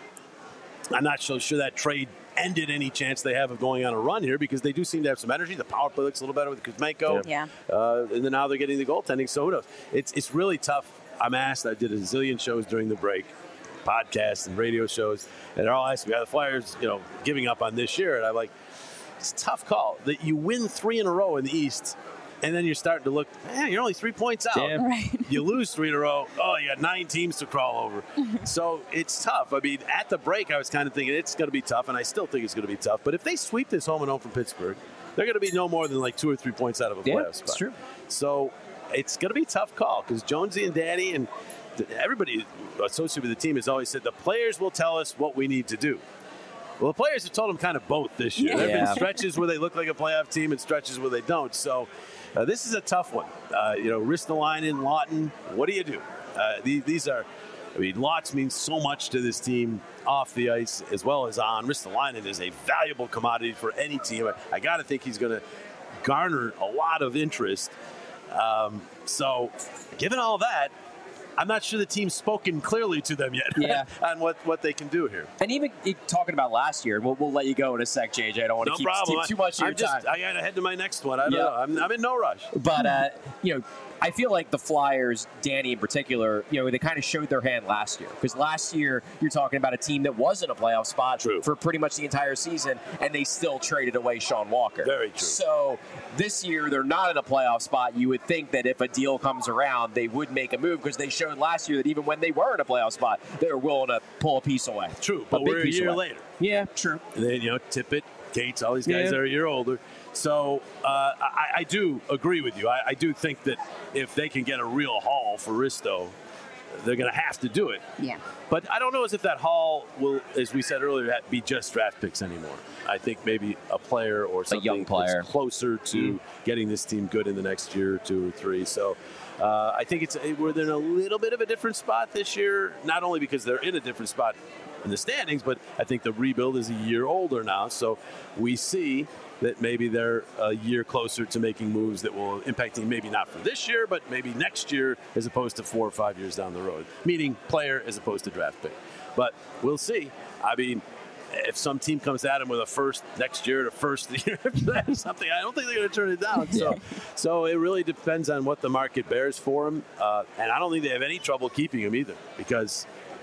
I'm not so sure that trade ended any chance they have of going on a run here, because they do seem to have some energy. The power play looks a little better with Kuzmenko. Yeah. Uh, and then now they're getting the goaltending. So who knows? It's, it's really tough. I'm asked. I did a zillion shows during the break, podcasts and radio shows, and they're all asking me, are the Flyers, you know, giving up on this year? And I'm like, it's a tough call. That you win three in a row in the East, and then you're starting to look, man, you're only three points out. Damn. Right. You lose three in a row, oh, you got nine teams to crawl over. So it's tough. I mean, at the break, I was kind of thinking it's going to be tough, and I still think it's going to be tough. But if they sweep this home and home from Pittsburgh, they're going to be no more than like two or three points out of a yeah, playoff spot. That's true. So it's going to be a tough call, because Jonesy and Danny and everybody associated with the team has always said the players will tell us what we need to do. Well, the players have told them kind of both this year. Yeah. There have Yeah. been stretches where they look like a playoff team and stretches where they don't. So uh, this is a tough one. Uh, you know, Ristolainen, Lawton, what do you do? Uh, these, these are, I mean, Lots means so much to this team off the ice as well as on. Ristolainen is a valuable commodity for any team. I, I got to think he's going to garner a lot of interest. Um, so given all that, I'm not sure the team's spoken clearly to them yet Yeah. on what, what they can do here. And even talking about last year, we'll, we'll let you go in a sec, J J. I don't want to No keep, problem. keep too much of your I'm just, time. I got to head to my next one. I don't Yeah. know. I'm, I'm in no rush. But, uh, you know, I feel like the Flyers, Danny in particular, you know, they kind of showed their hand last year. Because last year, you're talking about a team that was in a playoff spot True. for pretty much the entire season, and they still traded away Sean Walker. Very true. So this year, they're not in a playoff spot. You would think that if a deal comes around, they would make a move, because they showed last year that even when they were in a playoff spot, they were willing to pull a piece away. True, but big we're a piece year away. later. Yeah, true. And then, you know, Tippett, Gates, all these guys Yeah. are a year older. So uh, I, I do agree with you. I, I do think that if they can get a real haul for Risto, they're going to have to do it. Yeah. But I don't know as if that haul will, as we said earlier, be just draft picks anymore. I think maybe a player or something young player. that's closer to mm. getting this team good in the next year or two or three. So uh, I think it's we're in a little bit of a different spot this year, not only because they're in a different spot in the standings, but I think the rebuild is a year older now. So we see that maybe they're a year closer to making moves that will impact them, maybe not for this year, but maybe next year as opposed to four or five years down the road, meaning player as opposed to draft pick. But we'll see. I mean, if some team comes at him with a first next year to first the year after that or something, I don't think they're going to turn it down. So, so it really depends on what the market bears for him. Uh, and I don't think they have any trouble keeping him either, because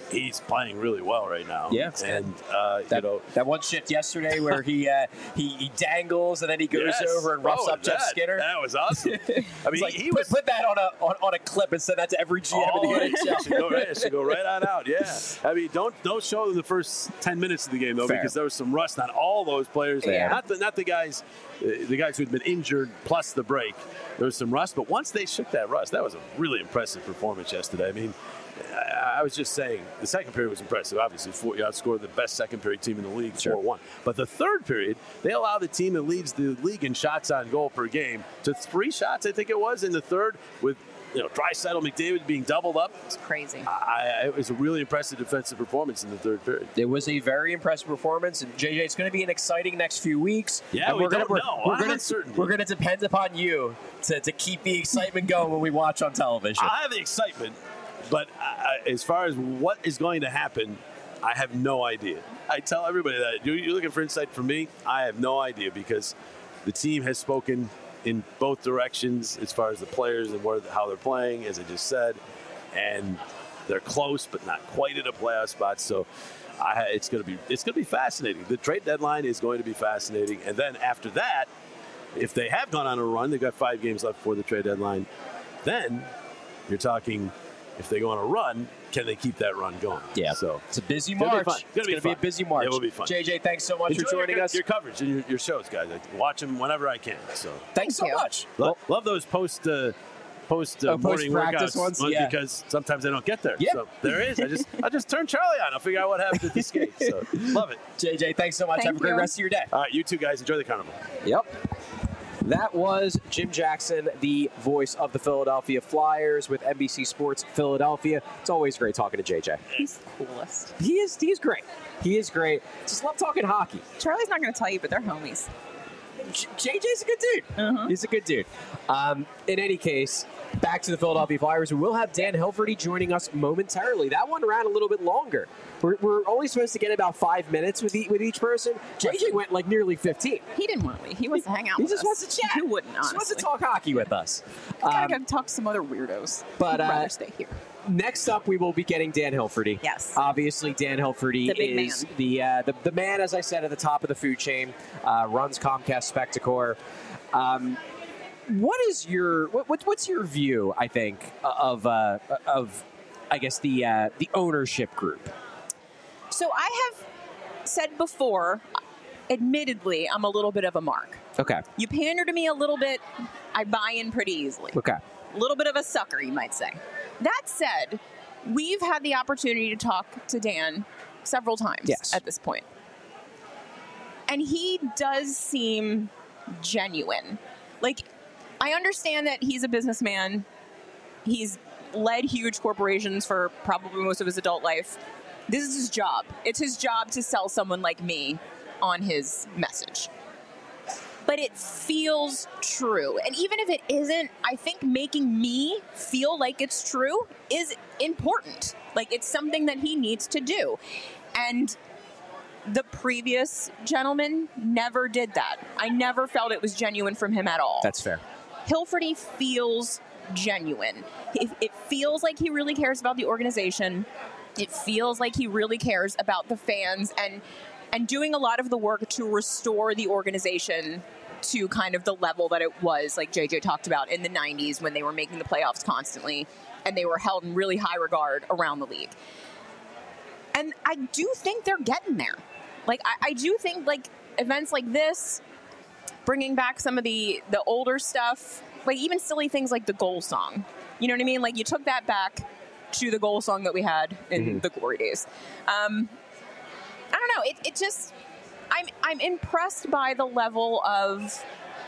he's playing really well right now. Yeah. And, uh, That, you know, that one shift yesterday where he, uh, he he dangles and then he goes yes. over and roughs Oh, up Jeff that, Skinner. That was awesome. I mean, It's like, he put, was put that on a on, on a clip and send that to every G M Oh, in the it N H L. should go right, it should go right on out. Yeah, I mean, don't don't show them the first ten minutes of the game though, Fair. because there was some rust on all those players. Yeah. Not the not the guys, uh, the guys who'd been injured plus the break. There was some rust, but once they shook that rust, that was a really impressive performance yesterday. I mean, I, I was just saying the second period was impressive. Obviously, four, you outscored the best second period team in the league, Sure. four one. But the third period, they allowed the team that leads the league in shots on goal per game to three shots, I think it was, in the third with. You know, Draisaitl, McDavid being doubled up. It's crazy. I, it was a really impressive defensive performance in the third period. It was a very impressive performance, and J J, it's going to be an exciting next few weeks. Yeah, and we we're gonna, don't we're, know. We're I'm going uncertain. to we're going to depend upon you to, to keep the excitement going when we watch on television. I have the excitement, but I, as far as what is going to happen, I have no idea. I tell everybody that. You're looking for insight from me? I have no idea because the team has spoken in both directions as far as the players and where, how they're playing, as I just said, and they're close but not quite at a playoff spot. So I, it's going to be it's going to be fascinating. The trade deadline is going to be fascinating, and then after that, if they have gone on a run, they've got five games left before the trade deadline. Then you're talking, if they go on a run, can they keep that run going? Yeah. So it's a busy It's gonna be March. fun. It's It's gonna be going to be a fun. busy March. It will be fun. J J, thanks so much enjoy for joining your, us. your coverage and your, your shows, guys. I watch them whenever I can. So Thanks so Thank you. much. love, love those post uh, post uh, Oh, morning post-practice workouts ones? ones Yeah. because sometimes I don't get there. Yeah. So there it is. I just I just turn Charlie on. I'll figure out what happened at the skate. So love it. J J, thanks so much. Thank Have a great you. rest of your day. All right, you two guys enjoy the carnival. Yep. That was Jim Jackson, the voice of the Philadelphia Flyers with N B C Sports Philadelphia. It's always great talking to J J. He's the coolest. He is he's great. He is great. Just love talking hockey. Charlie's not going to tell you, but they're homies. J- JJ's a good dude. Uh-huh. He's a good dude. Um, in any case, back to the Philadelphia Flyers. We will have Dan Hilferty joining us momentarily. That one ran a little bit longer. We're, we're only supposed to get about five minutes with, e- with each person. J J went like nearly fifteen. He didn't want to leave. He wants to hang out He with just us. wants to chat. Who wouldn't, He just honestly? wants to talk hockey with us. Gotta Um, go talk to some other weirdos. but, He'd uh, rather stay here. Next up, we will be getting Dan Hilferty. Yes. Obviously, Dan Hilferty The big is man. the, uh, the the man, as I said, at the top of the food chain. Uh, runs Comcast Spectacor. Um, what is your what, what what's your view? I think of uh, of I guess the uh, the ownership group. So I have said before, admittedly, I'm a little bit of a mark. Okay. You pander to me a little bit, I buy in pretty easily. Okay. A little bit of a sucker, you might say. That said, we've had the opportunity to talk to Dan several times Yes. at this point. And he does seem genuine. Like, I understand that he's a businessman. He's led huge corporations for probably most of his adult life. This is his job. It's his job to sell someone like me on his message. But it feels true. And even if it isn't, I think making me feel like it's true is important. Like, it's something that he needs to do. And the previous gentleman never did that. I never felt it was genuine from him at all. That's fair. Hilferty feels genuine. It, it feels like he really cares about the organization. It feels like he really cares about the fans and and doing a lot of the work to restore the organization to kind of the level that it was, like J J talked about, in the nineties when they were making the playoffs constantly and they were held in really high regard around the league. And I do think they're getting there. Like, I, I do think, like, events like this, bringing back some of the, the older stuff, like even silly things like the goal song. You know what I mean? Like, you took that back to the goal song that we had in Mm-hmm. the glory days. Um, I don't know. It, it just, I'm, I'm impressed by the level of,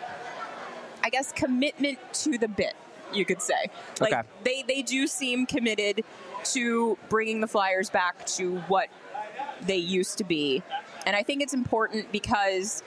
I guess, commitment to the bit, you could say. Like, Okay. they, they do seem committed to bringing the Flyers back to what they used to be. And I think it's important because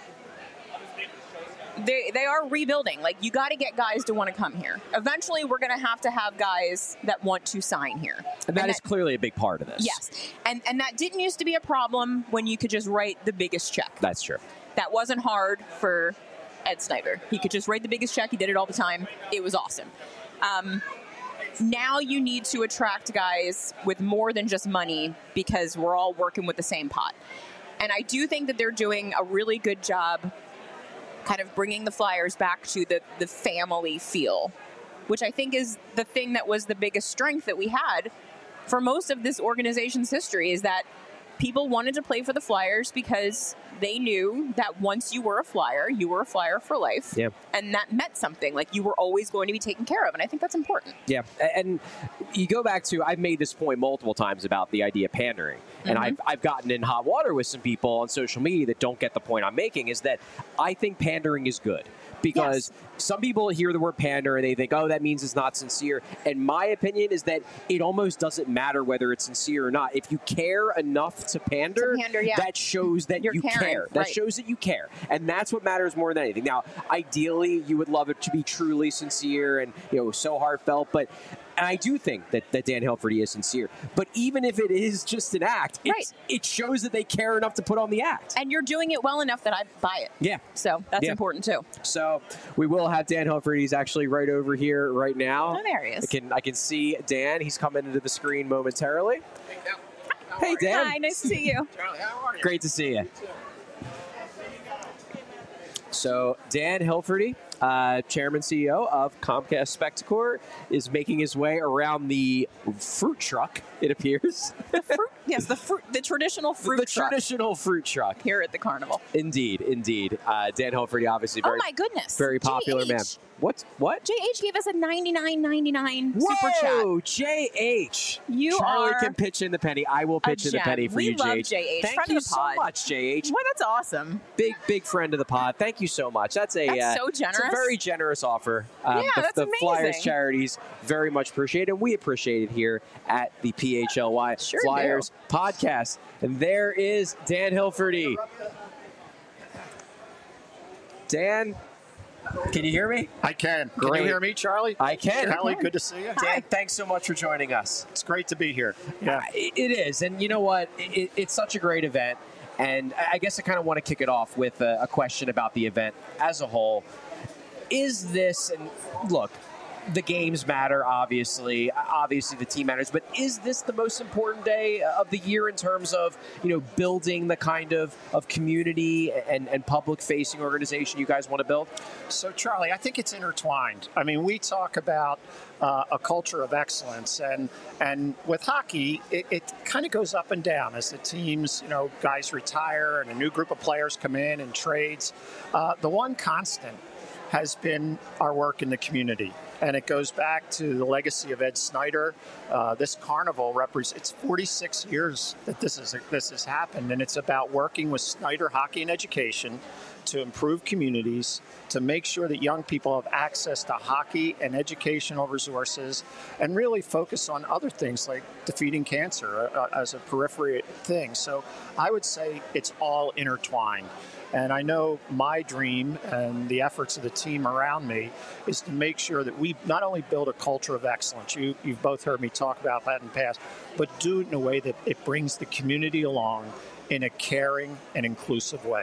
they they are rebuilding. Like, you got to get guys to want to come here. Eventually, we're going to have to have guys that want to sign here. And that is clearly a big part of this. Yes. And and that didn't used to be a problem when you could just write the biggest check. That's true. That wasn't hard for Ed Snyder. He could just write the biggest check. He did it all the time. It was awesome. Um, now you need to attract guys with more than just money because we're all working with the same pot. And I do think that they're doing a really good job kind of bringing the Flyers back to the, the family feel, which I think is the thing that was the biggest strength that we had for most of this organization's history, is that people wanted to play for the Flyers because they knew that once you were a Flyer, you were a Flyer for life. Yeah. And that meant something. Like, you were always going to be taken care of. And I think that's important. Yeah. And you go back to, I've made this point multiple times about the idea of pandering. And Mm-hmm. I've, I've gotten in hot water with some people on social media that don't get the point I'm making, is that I think pandering is good. Because Yes. some people hear the word pander and they think, oh, that means it's not sincere. And my opinion is that it almost doesn't matter whether it's sincere or not. If you care enough to pander, To pander, yeah. that shows that You're you caring, care. That right. shows that you care. And that's what matters more than anything. Now, ideally, you would love it to be truly sincere and, you know, so heartfelt. But and I do think that, that Dan Hilferty is sincere. But even if it is just an act, it's, Right. it shows that they care enough to put on the act. And you're doing it well enough that I buy it. Yeah. So that's Yeah. important, too. So we will have Dan Hilferty. He's actually right over here right now. Oh, there he is. I can I can see Dan. He's coming into the screen momentarily. Hey, Dan. Hi, nice to see you. Great to see you. So Dan Hilferty, uh, Chairman C E O of Comcast Spectacor, is making his way around the fruit truck, it appears. The fruit, yes, the fruit, the traditional fruit the truck traditional fruit truck. here at the carnival. Indeed, indeed. Uh, Dan Hilferty, obviously very, oh my goodness! very popular J H. man. What? What? J H gave us a ninety-nine ninety-nine super chat. Whoa, J H. You Charlie are can pitch in the penny. I will pitch in the gem. penny for We you, love J H. J H. Thank Friend you of the so pod. much, J H. Well, that's awesome. Big, big friend of the pod. Thank you so much. That's a, That's uh, so it's a generous. very generous offer. Um, Yeah, the, that's the Flyers amazing. charities very much appreciate it, and we appreciate it here at the P H L Y Sure Flyers podcast. And there is Dan Hilferty. Dan, can you hear me? I can. Can Great. you hear me, Charlie? I can. Kelly, good to see you. Dan, thanks so much for joining us. It's great to be here. Yeah. It it is, and you know what? It, it's such a great event, and I guess I kind of want to kick it off with a, a question about the event as a whole. Is this, and look, the games matter, obviously. Obviously, the team matters. But is this the most important day of the year in terms of, you know, building the kind of, of community and, and public-facing organization you guys want to build? So, Charlie, I think it's intertwined. I mean, we talk about uh, a culture of excellence, and and with hockey, it, it kind of goes up and down as the teams, you know, guys retire and a new group of players come in and trades. Uh, the one constant has been our work in the community. And it goes back to the legacy of Ed Snyder. Uh, this carnival represents, it's forty-six years that this is this has happened, and it's about working with Snyder Hockey and Education to improve communities, to make sure that young people have access to hockey and educational resources, and really focus on other things like defeating cancer uh, as a periphery thing. So I would say it's all intertwined. And I know my dream and the efforts of the team around me is to make sure that we not only build a culture of excellence, you, you've both heard me talk about that in the past, but do it in a way that it brings the community along in a caring and inclusive way.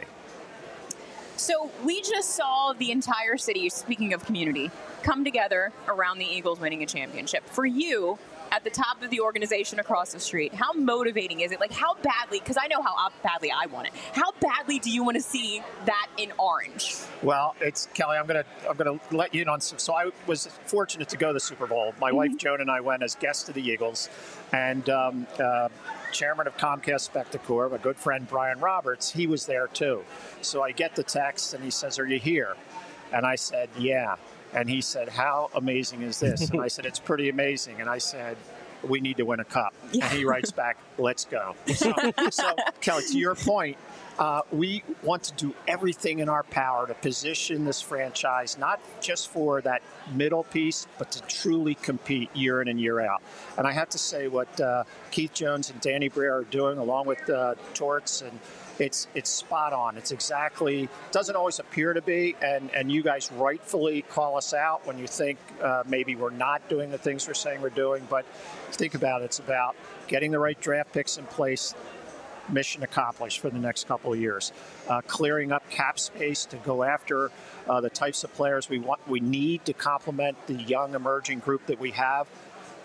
So we just saw the entire city, speaking of community, come together around the Eagles winning a championship. For you, at the top of the organization across the street, how motivating is it? Like, how badly, because I know how badly I want it, how badly do you want to see that in orange? Well, it's Kelly. I'm gonna I'm gonna let you in on some. So I was fortunate to go to the Super Bowl. My Mm-hmm. wife Joan and I went as guests to the Eagles, and um, uh, chairman of Comcast Spectacor, my good friend Brian Roberts, he was there too. So I get the text, and he says, "Are you here?" And I said, "Yeah." And he said, "How amazing is this?" And I said, "It's pretty amazing." And I said, "We need to win a cup." Yeah. And he writes back, "Let's go." So, so Kelly, to your point, uh, we want to do everything in our power to position this franchise, not just for that middle piece, but to truly compete year in and year out. And I have to say what uh, Keith Jones and Danny Briere are doing, along with uh, Torts, and It's it's spot on. It's exactly, doesn't always appear to be, and, and you guys rightfully call us out when you think uh, maybe we're not doing the things we're saying we're doing. But think about it. It's about getting the right draft picks in place, mission accomplished for the next couple of years. Uh, clearing up cap space to go after uh, the types of players we want, we need to complement the young emerging group that we have.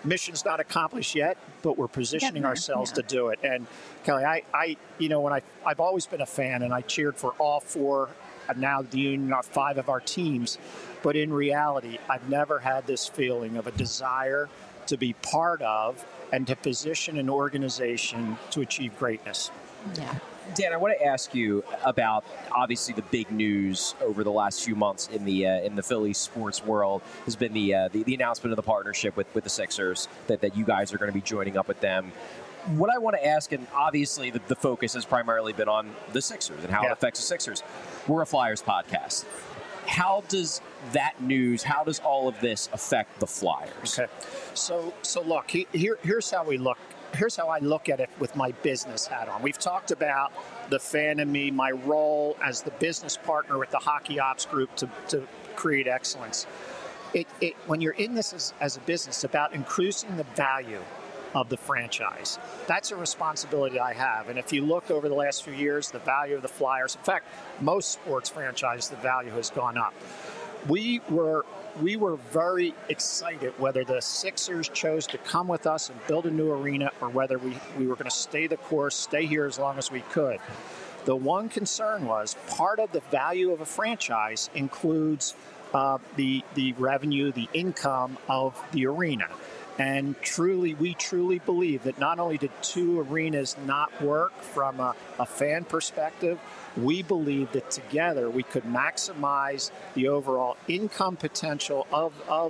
mission's not accomplished yet, but we're positioning there, ourselves yeah. to do it. And Kelly, I, I, you know, when I, I've always been a fan, and I cheered for all four, and now the Union are five of our teams. But in reality, I've never had this feeling of a desire to be part of and to position an organization to achieve greatness. Yeah. Dan, I want to ask you about obviously the big news over the last few months in the uh, in the Phillies sports world has been the, uh, the the announcement of the partnership with, with the Sixers, that, that you guys are going to be joining up with them. What I want to ask, and obviously the, the focus has primarily been on the Sixers and how Yeah. it affects the Sixers. We're a Flyers podcast. How does that news, how does all of this affect the Flyers? Okay. So, so look, he, here, here's how we look. Here's how I look at it with my business hat on. We've talked about the fan in me, my role as the business partner with the Hockey Ops Group to, to create excellence. It, it, when you're in this as, as a business, it's about increasing the value of the franchise. That's a responsibility I have. And if you look over the last few years, the value of the Flyers, in fact, most sports franchises, the value has gone up. We were we were very excited whether the Sixers chose to come with us and build a new arena or whether we, we were going to stay the course, stay here as long as we could. The one concern was part of the value of a franchise includes uh, the the revenue, the income of the arena. And truly, we truly believe that not only did two arenas not work from a, a fan perspective, we believe that together we could maximize the overall income potential of, of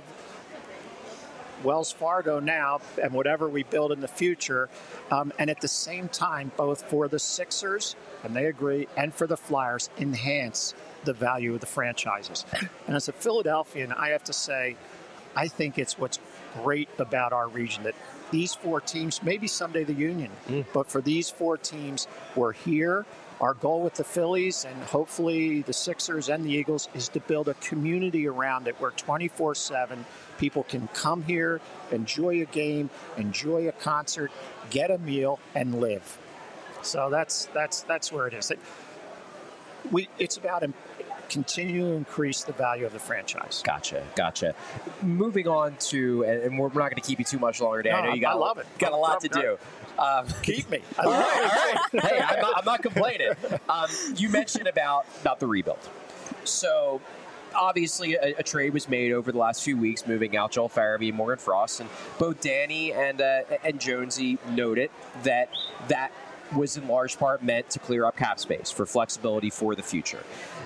Wells Fargo now and whatever we build in the future. Um, and at the same time, both for the Sixers, and they agree, and for the Flyers, enhance the value of the franchises. And as a Philadelphian, I have to say, I think it's what's great about our region that these four teams, maybe someday the Union, mm. but for these four teams, we're here. Our goal with the Phillies and hopefully the Sixers and the Eagles is to build a community around it where twenty-four seven people can come here, enjoy a game, enjoy a concert, get a meal, and live. So that's that's that's where it is. It, we, it's about continue to increase the value of the franchise. Gotcha, gotcha. Moving on to, and we're not going to keep you too much longer, Dan. No, I know you got, I love it. got a lot to do. Um, Keep me. all right, all right. Hey, I'm not, I'm not complaining. Um, you mentioned about, about the rebuild. So, obviously, a, a trade was made over the last few weeks, moving out Joel Farabee and Morgan Frost, and both Danny and uh, and Jonesy noted that that was in large part meant to clear up cap space for flexibility for the future.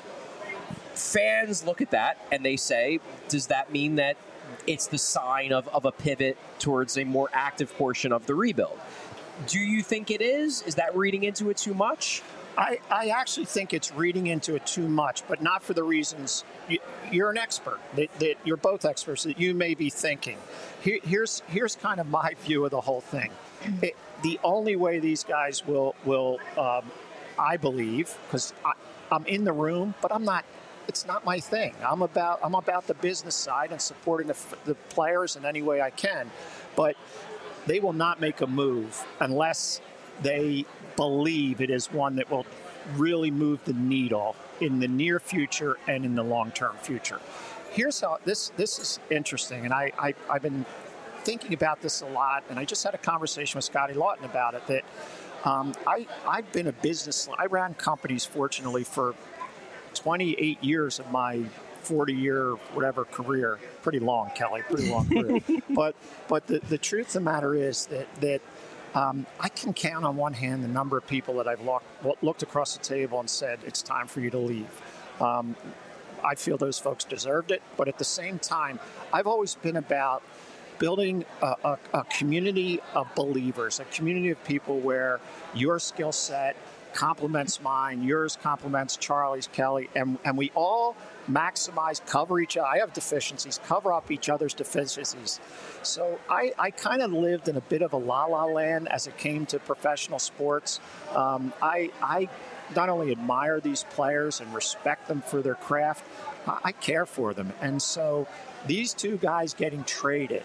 Fans look at that and they say, does that mean that it's the sign of, of a pivot towards a more active portion of the rebuild? Do you think it is? Is that reading into it too much? I, I actually think it's reading into it too much, but not for the reasons you, you're an expert, that, that you're both experts, that you may be thinking. Here, here's here's kind of my view of the whole thing. It, the only way these guys will, will um, I believe, because I'm in the room, but I'm not, it's not my thing. I'm about I'm about the business side and supporting the, the players in any way I can. But they will not make a move unless they believe it is one that will really move the needle in the near future and in the long-term future. Here's how this this is interesting, and I, I I've been thinking about this a lot, and I just had a conversation with Scotty Lawton about it. That um, I I've been a business. I ran companies, fortunately, for twenty-eight years of my forty-year whatever career. Pretty long, Kelly. Pretty long career. but but the, the truth of the matter is that that um, I can count on one hand the number of people that I've look, looked across the table and said it's time for you to leave. Um, I feel those folks deserved it, but at the same time, I've always been about building a, a, a community of believers, a community of people where your skill set complements mine, yours complements Charlie's, Kelly, and, and we all maximize, cover each other. I have deficiencies, cover up each other's deficiencies. So I, I kind of lived in a bit of a la-la land as it came to professional sports. Um, I, I not only admire these players and respect them for their craft, I, I care for them. And so these two guys getting traded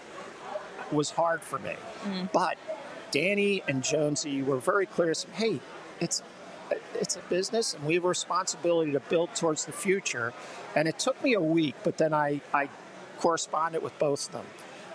was hard for me. Mm. But Danny and Jonesy were very clear. Said, hey, it's it's a business, and we have a responsibility to build towards the future. And it took me a week, but then I, I corresponded with both of them.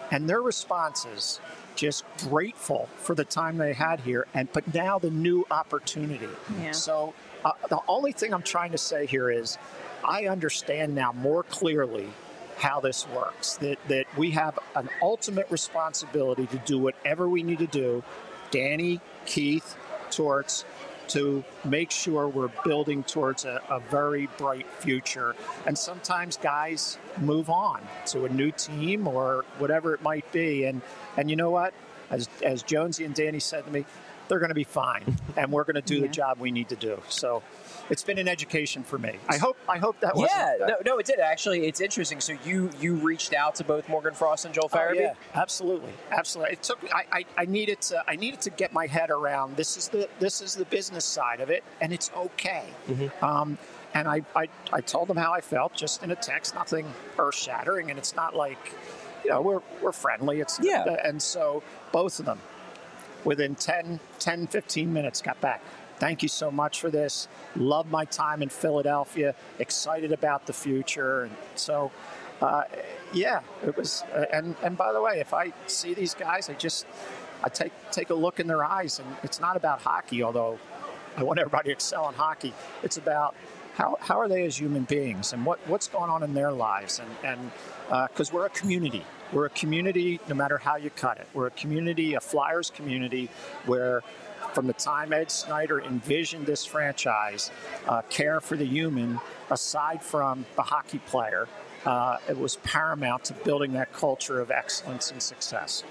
And their responses, just grateful for the time they had here, and but now the new opportunity. Yeah. So uh, the only thing I'm trying to say here is I understand now more clearly how this works, that, that we have an ultimate responsibility to do whatever we need to do, Danny, Keith, Torts, to make sure we're building towards a, a very bright future. And sometimes guys move on to a new team or whatever it might be. And and you know what? As as Jonesy and Danny said to me, they're going to be fine, and we're going to do Yeah. the job we need to do. So it's been an education for me. I hope I hope that wasn't. Yeah, uh, no, no, it did actually. It's interesting. So you you reached out to both Morgan Frost and Joel Oh, Farabee. yeah, absolutely, absolutely. It took. I, I, I needed to. I needed to get my head around. This is the. This is the business side of it, and it's okay. Mm-hmm. Um, and I, I, I told them how I felt, just in a text, nothing earth-shattering, and it's not like, you know, we're we're friendly. It's Yeah. And so both of them, within ten, ten, fifteen minutes, got back. Thank you so much for this. Love my time in Philadelphia. Excited about the future. And so, uh, yeah, it was. Uh, and and by the way, if I see these guys, I just I take take a look in their eyes, and it's not about hockey. Although I want everybody to excel in hockey, it's about how how are they as human beings, and what what's going on in their lives, and and because uh, we're a community. We're a community, no matter how you cut it. We're a community, a Flyers community, where from the time Ed Snyder envisioned this franchise, uh, care for the human, aside from the hockey player, uh, it was paramount to building that culture of excellence and success.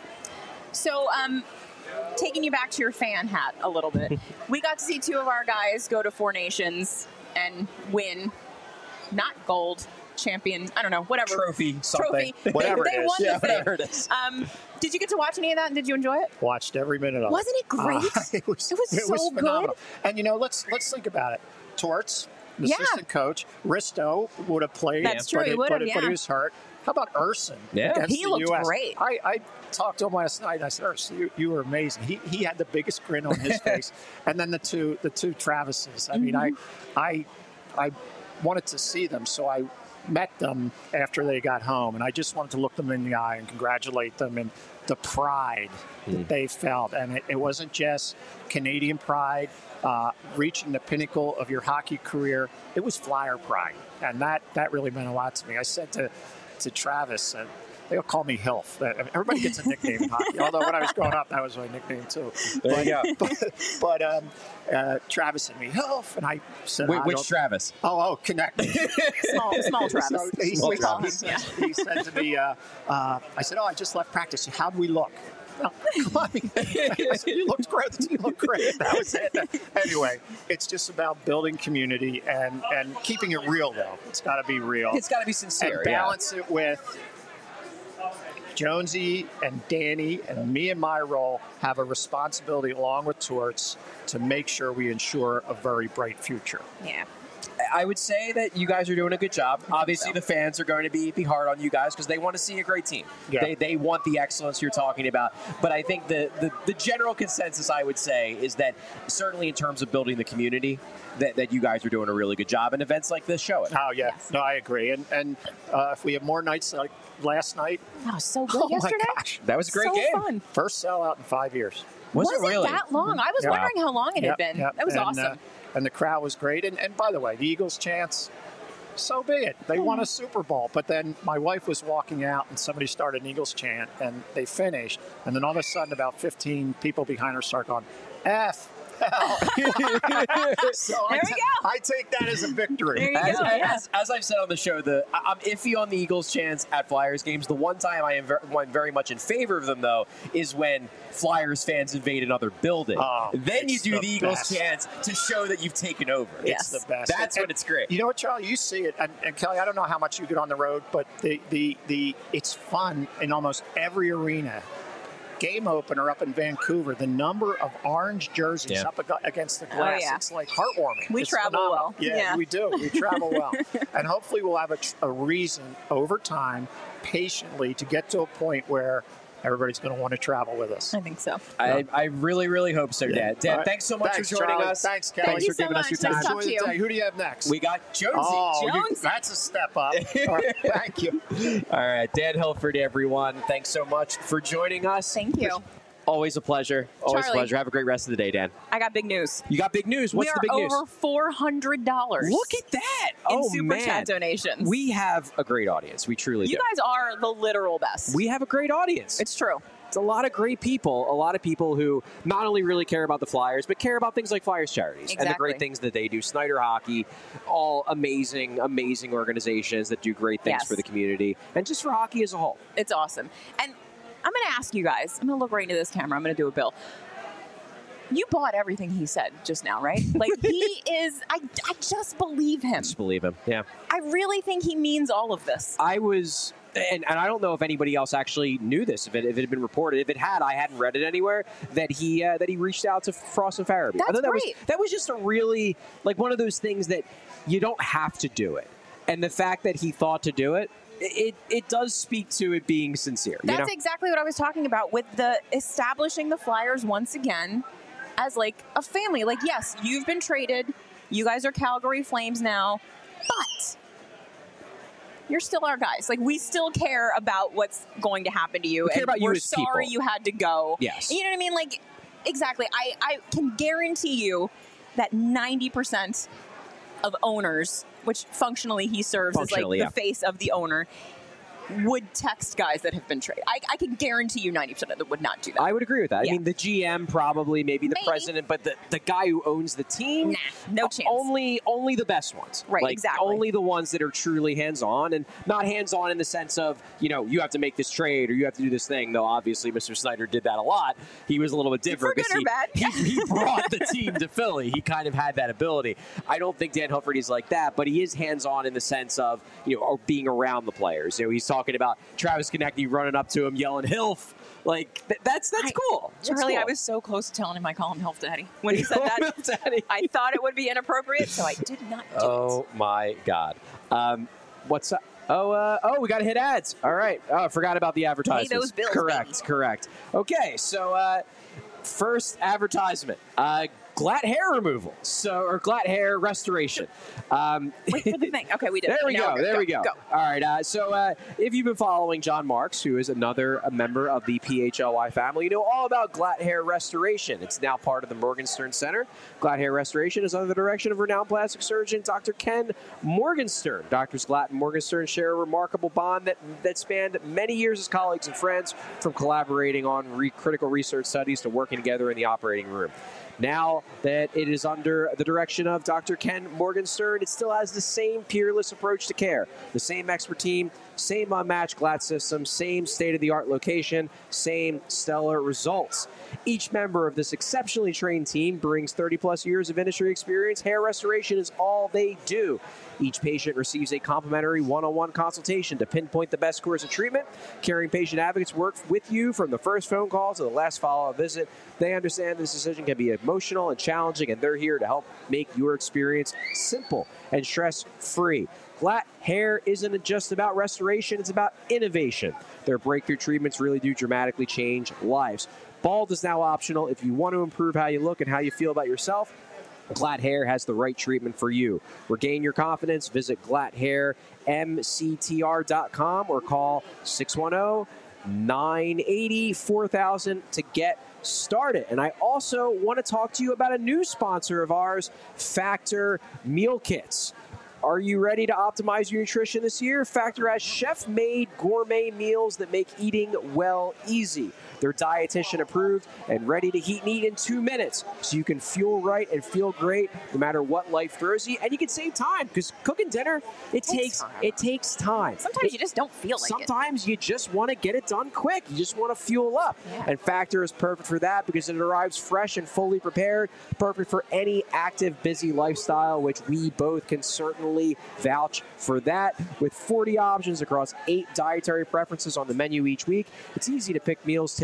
So, um, taking you back to your fan hat a little bit, we got to see two of our guys go to Four Nations and win, not gold, champion, I don't know, whatever. Trophy, something. Trophy. Whatever they, it they is. won Yeah, the thing. whatever it is. Um, did you get to watch any of that, and did you enjoy it? Watched every minute of Wasn't it great? Uh, it was, It was so good. phenomenal. And you know, let's let's think about it. Torts, the Yeah. assistant coach, Risto would have played. That's true, But he it- would but have, it- But yeah. he was hurt. How about Urson? Yeah. against He the looked U S? great. I, I talked to him last night. And I said, Urson, you, you were amazing. He he had the biggest grin on his face. And then the two the two Travises. I mean, I Mm-hmm. I I wanted to see them, so I met them after they got home, and I just wanted to look them in the eye and congratulate them and the pride that they felt. And it, it wasn't just Canadian pride, uh, reaching the pinnacle of your hockey career. It was Flyer pride, and that, that really meant a lot to me. I said to, to Travis, uh, they'll call me Hilf. That- Everybody gets a nickname in hockey, although when I was growing up, that was my nickname too. There you go. But, but um, uh, Travis said me, Hilf, and I said, Wait, I which don't- Travis? Oh, oh, connect. Small, small Travis. So he, We'll he- call he him, said, yeah. he said to me, uh, uh, I said, oh, I just left practice. How'd we look? No, come on. I said, you looked great. The team looked great. That was it. Anyway, it's just about building community and, and keeping it real, though. It's got to be real. It's got to be And sincere. balance it with Jonesy and Danny and me and my role have a responsibility along with Torts to make sure we ensure a very bright future. Yeah. I would say that you guys are doing a good job. Obviously, the fans are going to be, be hard on you guys because they want to see a great team. Yeah. They, they want the excellence you're talking about. But I think the, the, the general consensus, I would say, is that certainly in terms of building the community, that, that you guys are doing a really good job. And events like this show it. Oh, yeah. Yes. No, I agree. And, and uh, if we have more nights like last night, That was so good oh, yesterday. my gosh. That was a great so game. fun. First sellout in five years. Was, Was it really? that long? I was Yeah. wondering how long it had Yep, been. yep. That was And, awesome. uh, and the crowd was great. And, and by the way, the Eagles' chance, so be it. They won a Super Bowl. But then my wife was walking out and somebody started an Eagles chant and they finished. And then all of a sudden, about fifteen people behind her start going, F. Hell. so There I, we ta- go. I take that as a victory. There you As, go. yeah. as, as I've said on the show, the I- I'm iffy on the Eagles' chance at Flyers games. The one time I am ver- I'm very much in favor of them, though, is when Flyers fans invade another building. Oh, then you it's do the the, Eagles' best. chance to show that you've taken over. Yes. It's the best. That's And- when it's great. You know what, Charlie? You see it, and, and Kelly. I don't know how much you get on the road, but the the the it's fun in almost every arena. Game opener up in Vancouver, the number of orange jerseys Yeah. up ag- against the glass, yeah. it's like heartwarming. We It's travel phenomenal. well. Yeah, Yeah. we do. We travel well. And hopefully we'll have a, tr- a reason over time, patiently, to get to a point where everybody's going to want to travel with us. I think so. I, I really, really hope so, Dad. Dad, All right. thanks so much Thanks, for joining Charlie. us. Thanks, Kelly. Thanks Thank you for so giving us your much. Nice time. talk to you. Who do you have next? We got Jonesy. Oh, you- Jones. that's a step up. All right, thank you. All right, Dan Hilford, everyone. Thanks so much for joining us. Thank you. Always a pleasure. Always Charlie. a pleasure. Have a great rest of the day, Dan. I got big news. You got big news. What's we are the big news? over four hundred dollars. Look at that. in oh, super man. chat donations. We have a great audience. We truly you do. guys are the literal best. We have a great audience. it's true. It's a lot of great people, a lot of people who not only really care about the Flyers, but care about things like Flyers Charities and the Exactly. great things that they do. Snyder Hockey, all amazing, amazing organizations that do great things Yes. for the community and just for hockey as a whole. It's awesome. And I'm going to ask you guys, I'm going to look right into this camera. I'm going to do a bill. You bought everything he said just now, right? Like, he is, I, I just believe him. Just believe him. Yeah. I really think he means all of this. I was, and, and I don't know if anybody else actually knew this, if it, if it had been reported. If it had, I hadn't read it anywhere, that he uh, that he reached out to Frost and Farabee. I That's thought that great. was that was just a really, like, one of those things that you don't have to do it. And the fact that he thought to do it, it it does speak to it being sincere. That's you know? exactly what I was talking about with the establishing the Flyers once again as like a family. Like, yes, you've been traded. You guys are Calgary Flames now, but you're still our guys. Like, we still care about what's going to happen to you. We care and about you we're as sorry people. you had to go. Yes. You know what I mean? Like, exactly. I, I can guarantee you that ninety percent of owners, which functionally he serves as like Functionally, the yeah. face of the owner, would text guys that have been traded. I, I can guarantee you ninety percent of them would not do that. I would agree with that. Yeah. I mean, the G M probably, maybe the Maybe. president, but the, the guy who owns the team, Nah, no chance. Only only the best ones. Right, like, exactly. Only the ones that are truly hands-on, and not hands-on in the sense of, you know, you have to make this trade or you have to do this thing, though obviously Mister Snyder did that a lot. He was a little bit different. For good 'cause or he, bad. He, he brought the team to Philly. He kind of had that ability. I don't think Dan Hilford is like that, but he is hands-on in the sense of, you know, being around the players. You know, he's talking about Travis Konecny running up to him, yelling "Hilf." Like, th- that's that's I- cool. That's Charlie, cool. I was so close to telling him I call him Health Daddy. When he said Call him that, Health Daddy. I thought it would be inappropriate, so I did not do it. Oh my God! Um, what's up? Oh, uh, oh, we got to hit ads. All right. Oh, I forgot about the advertisements. those bills, Correct. baby. Correct. Okay. So, uh, first advertisement. Uh, Glatt hair removal, so or glatt hair restoration. Um, Wait for the thing. Okay, we did. there it. we Now go. we're good. There we go. Go. All right. Uh, so, uh, if you've been following John Marks, who is another a member of the P H L Y family, you know all about glatt hair restoration. It's now part of the Morgenstern Center. Glatt hair restoration is under the direction of renowned plastic surgeon Doctor Ken Morgenstern. Doctors Glatt and Morgenstern share a remarkable bond that that spanned many years as colleagues and friends, from collaborating on re- critical research studies to working together in the operating room. Now that it is under the direction of Doctor Ken Morgenstern, it still has the same peerless approach to care, the same expert team, same unmatched Glatt system, same state-of-the-art location, same stellar results. Each member of this exceptionally trained team brings thirty plus years of industry experience. Hair restoration is all they do. Each patient receives a complimentary one-on-one consultation to pinpoint the best course of treatment. Caring patient advocates work with you from the first phone call to the last follow-up visit. They understand this decision can be emotional and challenging, and they're here to help make your experience simple and stress-free. Glatt hair isn't just about restoration, it's about innovation. Their breakthrough treatments really do dramatically change lives. Bald is now optional if you want to improve how you look and how you feel about yourself. Glatt Hair has the right treatment for you. Regain your confidence. Visit glatt hair m c t r dot com or call six one zero, nine eight zero, four thousand to get started. And I also want to talk to you about a new sponsor of ours, Factor Meal Kits. Are you ready to optimize your nutrition this year? Factor has chef-made gourmet meals that make eating well easy. They're dietitian approved and ready to heat and eat in two minutes, so you can fuel right and feel great no matter what life throws you. And you can save time, because cooking dinner, it Takes takes time. it takes time. Sometimes It- you just don't feel like it. Sometimes you just want to get it done quick. You just want to fuel up. Yeah. And Factor is perfect for that because it arrives fresh and fully prepared. Perfect for any active, busy lifestyle, which we both can certainly vouch for that. With forty options across eight dietary preferences on the menu each week, it's easy to pick meals tailored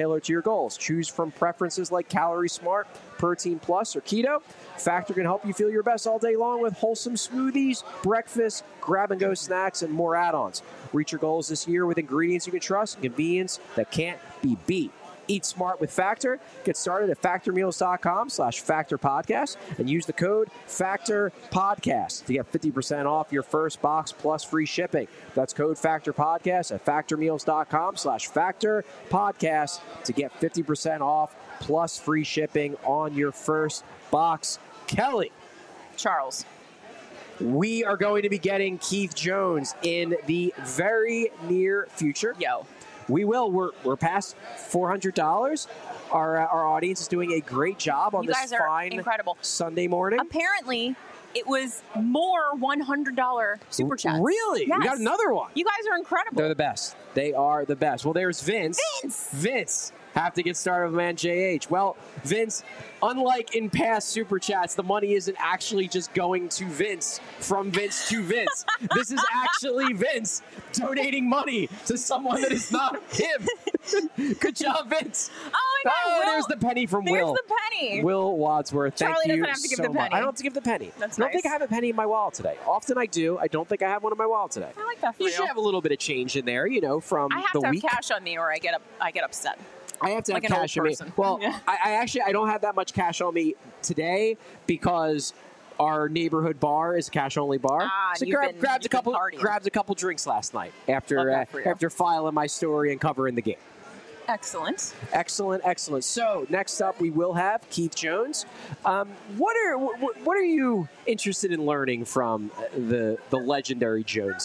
tailored to your goals. Choose from preferences like Calorie Smart, Protein Plus, or Keto. Factor can help you feel your best all day long with wholesome smoothies, breakfast, grab-and-go snacks, and more add-ons. Reach your goals this year with ingredients you can trust and convenience that can't be beat. Eat smart with Factor. Get started at factormeals.com slash Factor Podcast and use the code Factor Podcast to get fifty percent off your first box plus free shipping. That's code Factor Podcast at factormeals.com slash Factor Podcast to get fifty percent off plus free shipping on your first box. Kelly. Charles. We are going to be getting Keith Jones in the very near future. Yo. We will. We're, we're past four hundred dollars. Our, uh, our audience is doing a great job on You this guys are fine incredible. Sunday morning. Apparently, it was more one hundred dollars super chats. Really? Yes. We got another one. You guys are incredible. They're the best. They are the best. Well, there's Vince. Vince! Vince. Have to get started with man J H. Well, Vince, unlike in past Super Chats, the money isn't actually just going to Vince from Vince to Vince. This is actually Vince donating money to someone that is not him. Good job, Vince. Oh, my God. Oh, Will, there's the penny from there's Will. the penny. Will Wadsworth. Thank Charlie you doesn't have to give so the much. penny. I don't have to give the penny. That's I don't think I nice. have a penny in my wallet today. Often I do. I don't think I have one in my wallet today. I like that for You you. should have a little bit of change in there, you know, from I have the to have week. cash on me or I get up, I get upset. I have to Like have an old cash on me. person. Well, Yeah. I, I actually I don't have that much cash on me today because our neighborhood bar is a cash only bar. Ah, so you've grab, been- grabbed a you've been couple partying. grabbed a couple drinks last night Love after that uh, for you. after filing my story and covering the game. Excellent. Excellent, excellent. So next up, we will have Keith Jones. Um, what are what, what are you interested in learning from the the legendary Jones?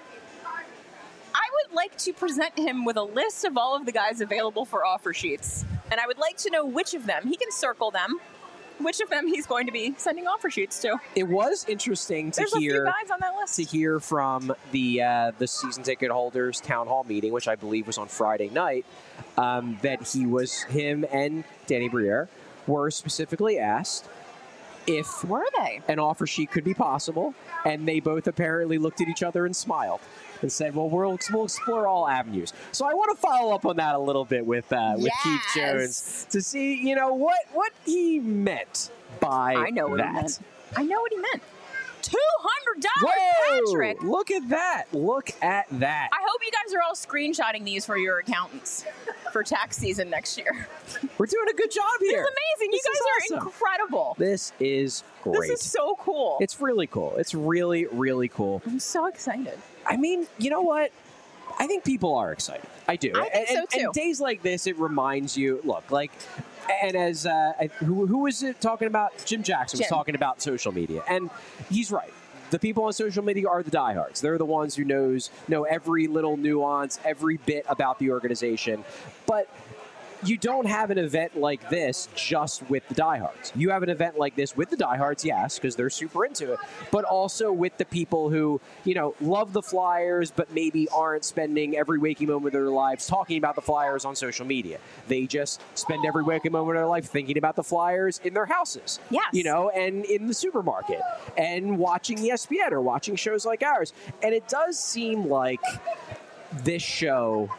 I would like to present him with a list of all of the guys available for offer sheets. And I would like to know which of them, he can circle them, which of them he's going to be sending offer sheets to. It was interesting to There's a few hear guys on that list. to hear from the uh, the season ticket holders town hall meeting, which I believe was on Friday night, um, that he was him and Danny Briere were specifically asked if Were they? an offer sheet could be possible, and they both apparently looked at each other and smiled and said, "Well, we'll, we'll explore all avenues." So I want to follow up on that a little bit with uh, with Keith Yes. Jones to see, you know, what what he meant by I know what that. he meant. I know what he meant. two hundred dollars, Whoa! Patrick! Look at that! Look at that! I hope you guys are all screenshotting these for your accountants for tax season next year. We're doing a good job This here. is amazing. This you is guys are awesome. incredible. This is great. This is so cool. It's really cool. It's really, really cool. I'm so excited. I mean, you know what? I think people are excited. I do. I think and, so, too. And days like this, it reminds you. Look, like, and as uh, I- who, who was it talking about? Jim Jackson was Jim. talking about social media, and he's right. The people on social media are the diehards. They're the ones who knows know every little nuance, every bit about the organization. But you don't have an event like this just with the diehards. You have an event like this with the diehards, yes, because they're super into it, but also with the people who, you know, love the Flyers, but maybe aren't spending every waking moment of their lives talking about the Flyers on social media. They just spend every waking moment of their life thinking about the Flyers in their houses. Yes. You know, and in the supermarket and watching E S P N or watching shows like ours. And it does seem like this show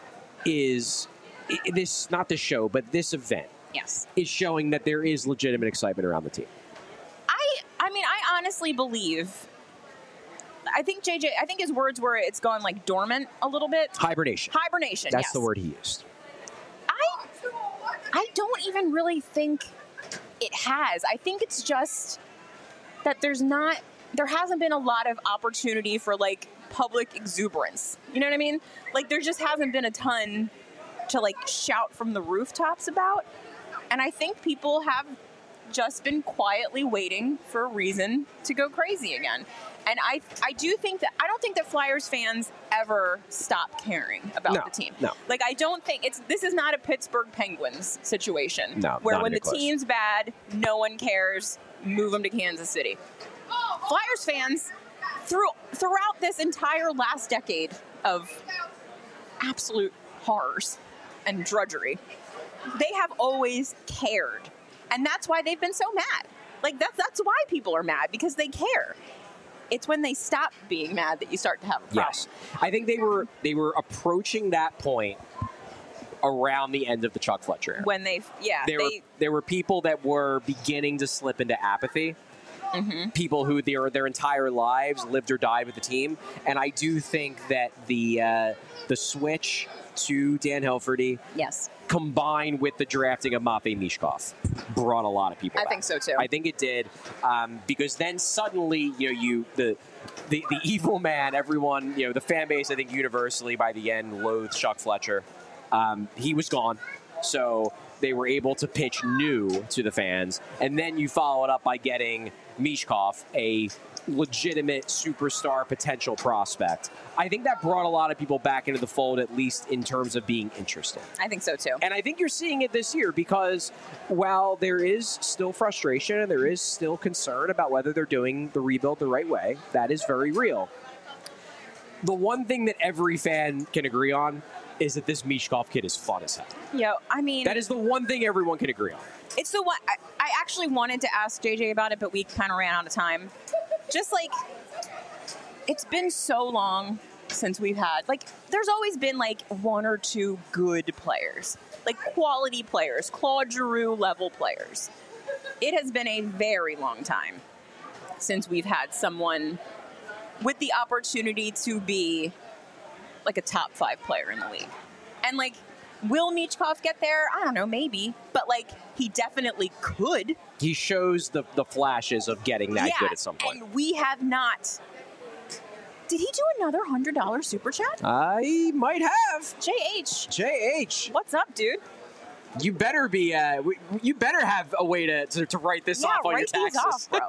is i- this not this show, but this event Yes. is showing that there is legitimate excitement around the team. I I mean, I honestly believe. I think J J. I think his words were it's gone like dormant a little bit. Hibernation. Hibernation. That's yes. the word he used. I I don't even really think it has. I think it's just that there's not there hasn't been a lot of opportunity for like public exuberance. You know what I mean? Like there just hasn't been a ton to like shout from the rooftops about. And I think people have just been quietly waiting for a reason to go crazy again. And I I do think that I don't think that Flyers fans ever stop caring about No, the team. no. Like I don't think it's this is not a Pittsburgh Penguins situation No, where not when the even close. team's bad, no one cares, move them to Kansas City. Flyers fans through throughout this entire last decade of absolute horrors and drudgery, they have always cared. And that's why they've been so mad. Like that's that's why people are mad, because they care. It's when they stop being mad that you start to have a problem. Yes, I think they were they were approaching that point around the end of the Chuck Fletcher era. When they, yeah, there they, were there were people that were beginning to slip into apathy. Mm-hmm. People who their their entire lives lived or died with the team, and I do think that the uh, the switch to Dan Hilferty, yes, combined with the drafting of Matvei Mishkov, brought a lot of people I back. think so too. I think it did, um, because then suddenly, you know, you the, the the evil man, everyone, you know, the fan base, I think universally by the end loathed Chuck Fletcher. Um, he was gone, so they were able to pitch new to the fans, and then you follow it up by getting Mishkov, a legitimate superstar potential prospect. I think that brought a lot of people back into the fold, at least in terms of being interested. I think so too. And I think you're seeing it this year because while there is still frustration and there is still concern about whether they're doing the rebuild the right way, that is very real. The one thing that every fan can agree on is that this Mishkov kid is fun as hell. Yo, I mean, that is the one thing everyone can agree on. It's the one. I, I actually wanted to ask J J about it, but we kind of ran out of time. Just like, it's been so long since we've had, like, there's always been like one or two good players, like quality players, Claude Giroux level players. It has been a very long time since we've had someone with the opportunity to be like a top five player in the league. And like, will Michkov get there? I don't know, maybe. But like, he definitely could. He shows the, the flashes of getting that yeah, good at some point. And we have not. Did he do another one hundred dollars super chat? I might have. J H. J H. What's up, dude? You better be, uh, you better have a way to, to, to write this yeah, off on your write these taxes. off,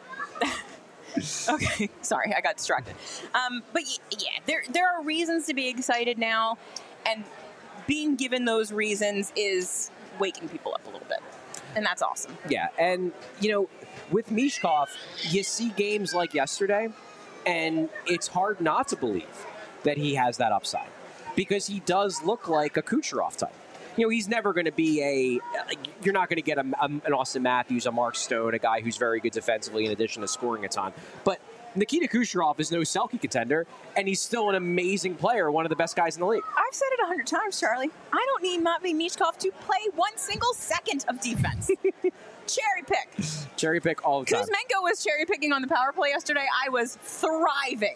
bro. Okay, sorry, I got distracted. Um, but y- yeah, there there are reasons to be excited now, and being given those reasons is waking people up a little bit, and that's awesome. Yeah, and you know, with Mishkov, you see games like yesterday, and it's hard not to believe that he has that upside because he does look like a Kucherov type. You know, he's never going to be a. You're not going to get a, a, an Austin Matthews, a Mark Stone, a guy who's very good defensively in addition to scoring a ton. But Nikita Kucherov is no Selke contender, and he's still an amazing player, one of the best guys in the league. I've said it a hundred times, Charlie. I don't need Matvei Mishkov to play one single second of defense. Cherry pick. Cherry pick all the time. Kuzmenko was cherry picking on the power play yesterday. I was thriving.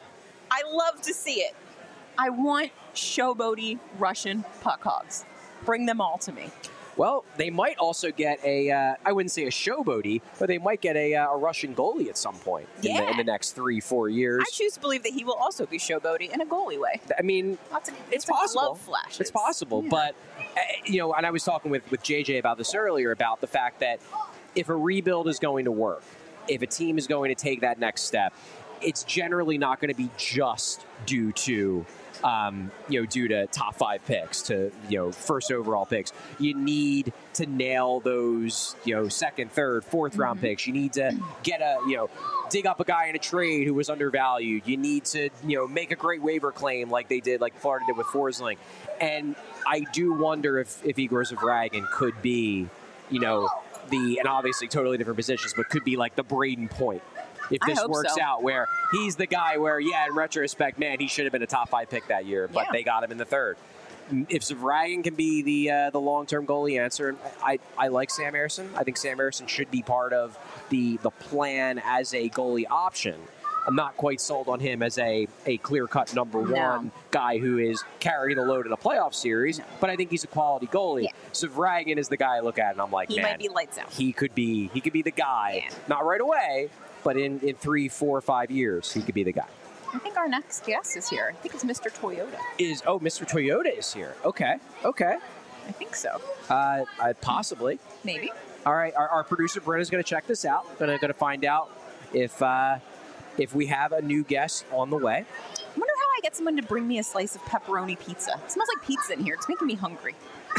I love to see it. I want showboaty Russian puck hogs. Bring them all to me. Well, they might also get a, uh, I wouldn't say a showboaty, but they might get a, uh, a Russian goalie at some point in, yeah. the, in the next three, four years. I choose to believe that he will also be showboaty in a goalie way. I mean, Lots of, it's like possible. Love flashes. It's possible, yeah. but, uh, you know, and I was talking with, with J J about this earlier, about the fact that if a rebuild is going to work, if a team is going to take that next step, it's generally not going to be just due to Um, you know, due to top five picks, to, you know, first overall picks. You need to nail those, you know, second, third, fourth round Mm-hmm. picks. You need to get a, you know, dig up a guy in a trade who was undervalued. You need to, you know, make a great waiver claim like they did, like Florida did with Forsling. And I do wonder if, if Igor Zavragin could be, you know, the, and obviously totally different positions, but could be like the Braden Point. If this I hope works so. out, where he's the guy where, yeah, in retrospect, man, he should have been a top five pick that year, but Yeah. they got him in the third. If Zavragin can be the uh, the long term goalie answer, I, I like Sam Ersson. I think Sam Ersson should be part of the the plan as a goalie option. I'm not quite sold on him as a, a clear cut number No. one guy who is carrying the load in a playoff series, No. but I think he's a quality goalie. Yeah. Zavragin is the guy I look at and I'm like, He man, might be lights out. he could be he could be the guy. Yeah. Not right away, but in, in three, four, five years, he could be the guy. I think our next guest is here. I think it's Mister Toyota. Is oh, Mister Toyota is here. Okay, okay, I think so. uh, uh, possibly. Maybe. All right, our, our producer Brenna's going to check this out. Going to going to find out if uh, if we have a new guest on the way. I wonder how I get someone to bring me a slice of pepperoni pizza. It smells like pizza in here. It's making me hungry.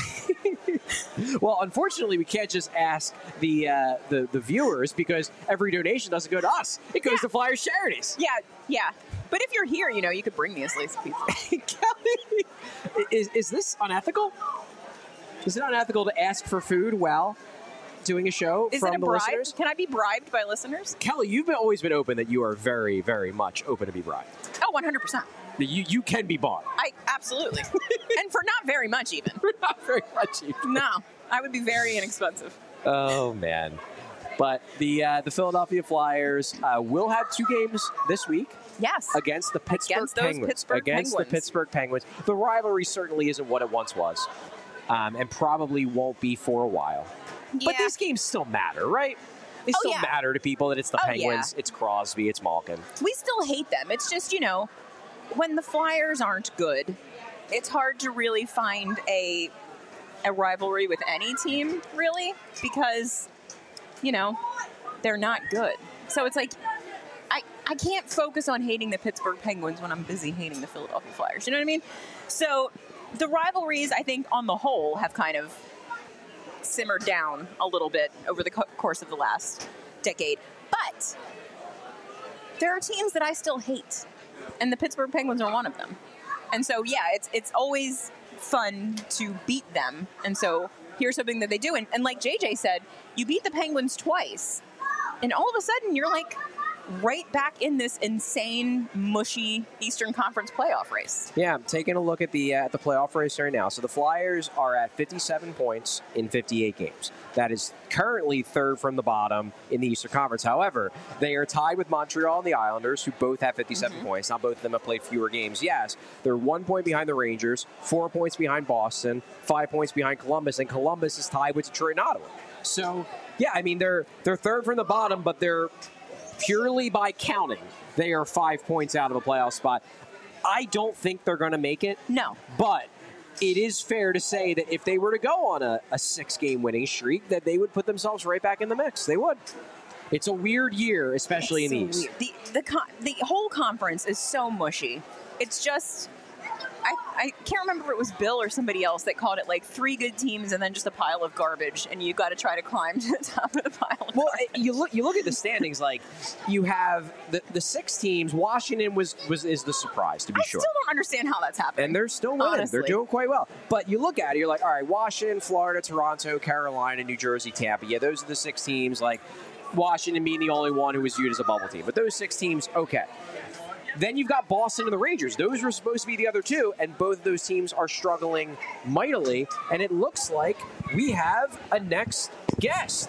Well, unfortunately, we can't just ask the uh, the the viewers because every donation doesn't go to us. It goes Yeah. to Flyers charities. Yeah, yeah. But if you're here, you know, you could bring me a slice of pizza. Kelly, is is this unethical? Is it unethical to ask for food while doing a show Is from it a the bribe? listeners? Can I be bribed by listeners? Kelly, you've been, always been open that you are very, very much open to be bribed. Oh, one hundred percent. You you can be bought. I absolutely, and for not very much even. Not very much. Even. No, I would be very inexpensive. Oh man. But the uh, the Philadelphia Flyers uh, will have two games this week. Yes. Against the Pittsburgh Against those Penguins. Pittsburgh against Penguins. the Pittsburgh Penguins. The rivalry certainly isn't what it once was, um, and probably won't be for a while. But Yeah. these games still matter, right? They Oh, still yeah. matter to people that it's the Oh, Penguins, yeah. it's Crosby, it's Malkin. We still hate them. It's just, you know, when the Flyers aren't good, it's hard to really find a a rivalry with any team, really, because, you know, they're not good. So it's like I, I can't focus on hating the Pittsburgh Penguins when I'm busy hating the Philadelphia Flyers. You know what I mean? So the rivalries, I think, on the whole, have kind of simmered down a little bit over the co- course of the last decade. But there are teams that I still hate, and the Pittsburgh Penguins are one of them. And so, yeah, it's it's always fun to beat them. And so here's something that they do. And, and like J J said, you beat the Penguins twice, and all of a sudden you're like right back in this insane, mushy Eastern Conference playoff race. Yeah, I'm taking a look at the uh, the playoff race right now. So the Flyers are at fifty-seven points in fifty-eight games. That is currently third from the bottom in the Eastern Conference. However, they are tied with Montreal and the Islanders, who both have fifty-seven Mm-hmm. points. Now, both of them have played fewer games. Yes, they're one point behind the Rangers, four points behind Boston, five points behind Columbus, and Columbus is tied with Detroit and Ottawa. So, yeah, I mean, they're they're third from the bottom, but they're purely by counting, they are five points out of a playoff spot. I don't think they're going to make it. No. But it is fair to say that if they were to go on a, a six-game winning streak, that they would put themselves right back in the mix. They would. It's a weird year, especially It's in the so East. weird. The the con- the whole conference is so mushy. It's just I, I can't remember if it was Bill or somebody else that called it like three good teams and then just a pile of garbage, and you got to try to climb to the top of the pile. Of Well, garbage. you look you look at the standings. Like you have the, the six teams. Washington was was is the surprise to be I sure. still don't understand how that's happening. And they're still winning. Honestly. They're doing quite well. But you look at it, you're like, all right, Washington, Florida, Toronto, Carolina, New Jersey, Tampa. Yeah, those are the six teams. Like Washington being the only one who was viewed as a bubble team. But those six teams, okay. Then you've got Boston and the Rangers. Those were supposed to be the other two, and both of those teams are struggling mightily. And it looks like we have a next guest.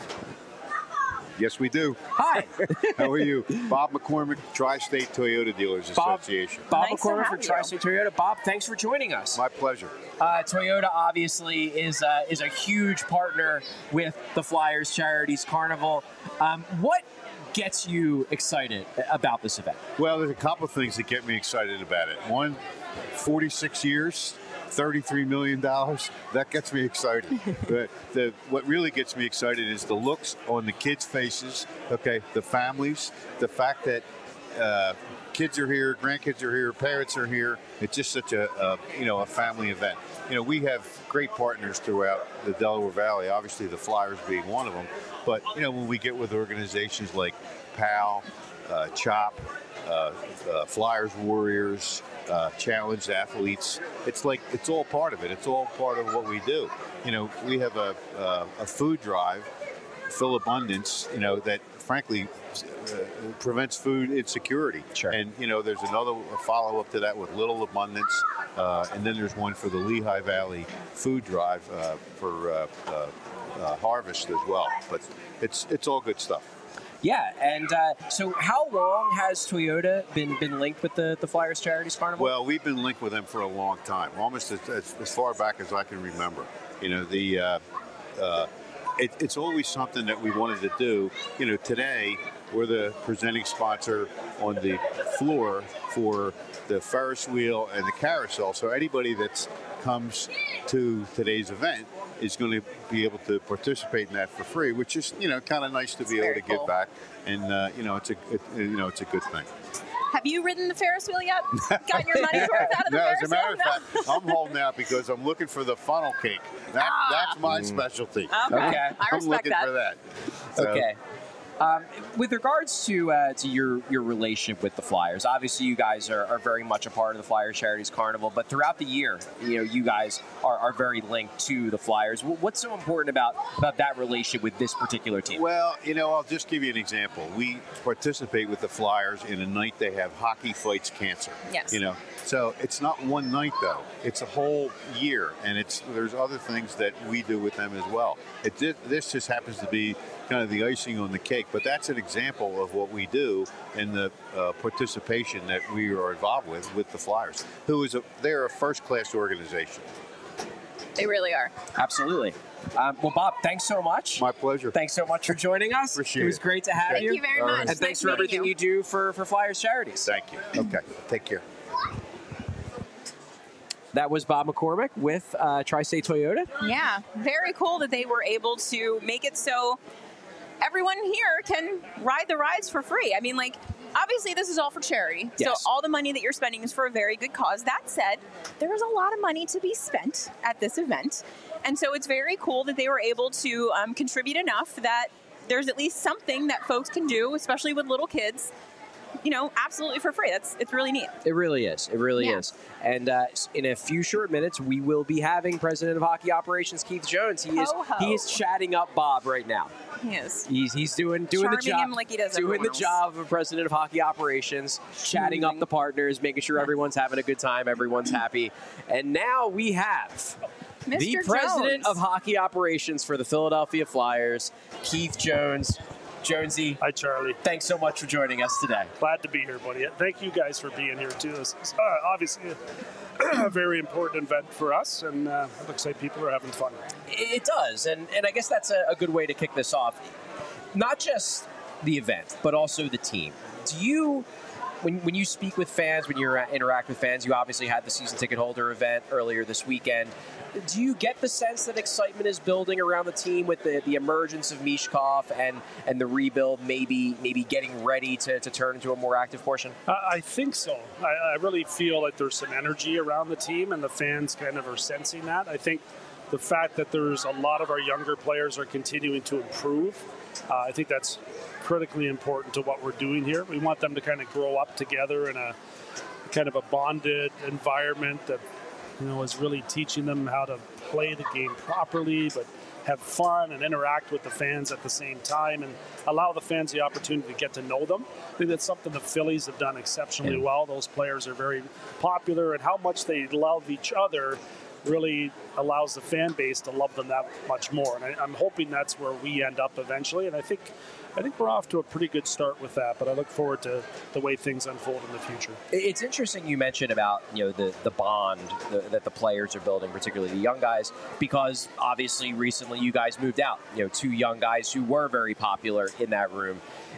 Yes, we do. Hi. How are you? Bob McCormick, Tri-State Toyota Dealers Bob, Association. Bob Nice to McCormick have from you. Tri-State Toyota. Bob, thanks for joining us. My pleasure. Uh, Toyota obviously is uh, is a huge partner with the Flyers Charities Carnival. Um, what gets you excited about this event? Well, there's a couple of things that get me excited about it. One, forty-six years, thirty-three million dollars. That gets me excited. the, the, what really gets me excited is the looks on the kids' faces, okay, the families, the fact that uh, kids are here, grandkids are here, parents are here. It's just such a, a, you know, a family event. You know, we have great partners throughout the Delaware Valley, obviously the Flyers being one of them. But, you know, when we get with organizations like PAL, uh, CHOP, uh, uh, Flyers Warriors, uh, Challenged Athletes, it's like, it's all part of it. It's all part of what we do. You know, we have a, uh, a food drive, Fill Abundance, you know, that frankly uh, prevents food insecurity. Sure. And, you know, there's another follow-up to that with Little Abundance, uh, and then there's one for the Lehigh Valley Food Drive uh, for uh, uh, uh, harvest as well. But it's it's all good stuff. Yeah, and uh, so how long has Toyota been, been linked with the, the Flyers Charities Carnival? Well, we've been linked with them for a long time, almost as, as, as far back as I can remember. You know, the uh, uh, it, it's always something that we wanted to do. You know, today we're the presenting sponsor on the floor for the Ferris wheel and the carousel. So anybody that comes to today's event is going to be able to participate in that for free, which is, you know, kind of nice to be able very to give cool. back. And uh, you know, it's a it, you know it's a good thing. Have you ridden the Ferris wheel yet? Got your money's worth out of the No, Ferris as a matter wheel? of fact, I'm holding out because I'm looking for the funnel cake. That, Ah. That's my specialty. Okay. Okay. I I'm respect looking that. for that. So, okay. Um, with regards to uh, to your, your relationship with the Flyers, obviously you guys are, are very much a part of the Flyers Charities Carnival, but throughout the year, you know, you guys are, are very linked to the Flyers. What's so important about, about that relationship with this particular team? Well, you know, I'll just give you an example. We participate with the Flyers in a night they have Hockey Fights Cancer. Yes. You know, so it's not one night though; it's a whole year, and it's there's other things that we do with them as well. It this just happens to be kind of the icing on the cake, but that's an example of what we do in the uh, participation that we are involved with with the Flyers, who is a they're a first-class organization. They really are. Absolutely. Um, well, Bob, thanks so much. My pleasure. Thanks so much for joining us. Appreciate it. was it. great to have Thank you. you very much. And Nice thanks for meeting everything you. you do for, for Flyers Charities. Thank you. Okay. Take care. That was Bob McCormick with uh, Tri-State Toyota. Yeah, very cool that they were able to make it so everyone here can ride the rides for free. I mean, like, obviously this is all for charity. Yes. So all the money that you're spending is for a very good cause. That said, there is a lot of money to be spent at this event. And so it's very cool that they were able to um, contribute enough that there's at least something that folks can do, especially with little kids, you know, absolutely for free. That's it's really neat. It really is. It really Yeah. is. And uh, in a few short minutes, we will be having President of Hockey Operations Keith Jones. He is Ho-ho. he is chatting up Bob right now. He is. He's he's doing doing the Charming job him like he does doing everyone the else. job of President of Hockey Operations, chatting up Schmoozing. the partners, making sure everyone's having a good time, everyone's happy. And now we have the Mister President Jones. of Hockey Operations for the Philadelphia Flyers, Keith Jones. Jonesy, Hi, Charlie. thanks so much for joining us today. Glad to be here, buddy. Thank you guys for being here, too. This is uh, obviously a, a very important event for us, and uh, it looks like people are having fun. It does, and, and I guess that's a, a good way to kick this off. Not just the event, but also the team. Do you, when, when you speak with fans, when you interact with fans, you obviously had the season ticket holder event earlier this weekend. Do you get the sense that excitement is building around the team with the, the emergence of Mishkov and, and the rebuild maybe maybe getting ready to, to turn into a more active portion? Uh, I think so. I, I really feel like there's some energy around the team, and the fans kind of are sensing that. I think the fact that there's a lot of our younger players are continuing to improve, uh, I think that's critically important to what we're doing here. We want them to kind of grow up together in a kind of a bonded environment that, you know, is really teaching them how to play the game properly, but have fun and interact with the fans at the same time and allow the fans the opportunity to get to know them. I think that's something the Phillies have done exceptionally well. Those players are very popular, and how much they love each other really allows the fan base to love them that much more. And I, I'm hoping that's where we end up eventually. And I think I think we're off to a pretty good start with that, but I look forward to the way things unfold in the future. It's interesting you mentioned about, you know, the, the bond the, that the players are building, particularly the young guys, because obviously recently you guys moved out, you know, two young guys who were very popular in that room.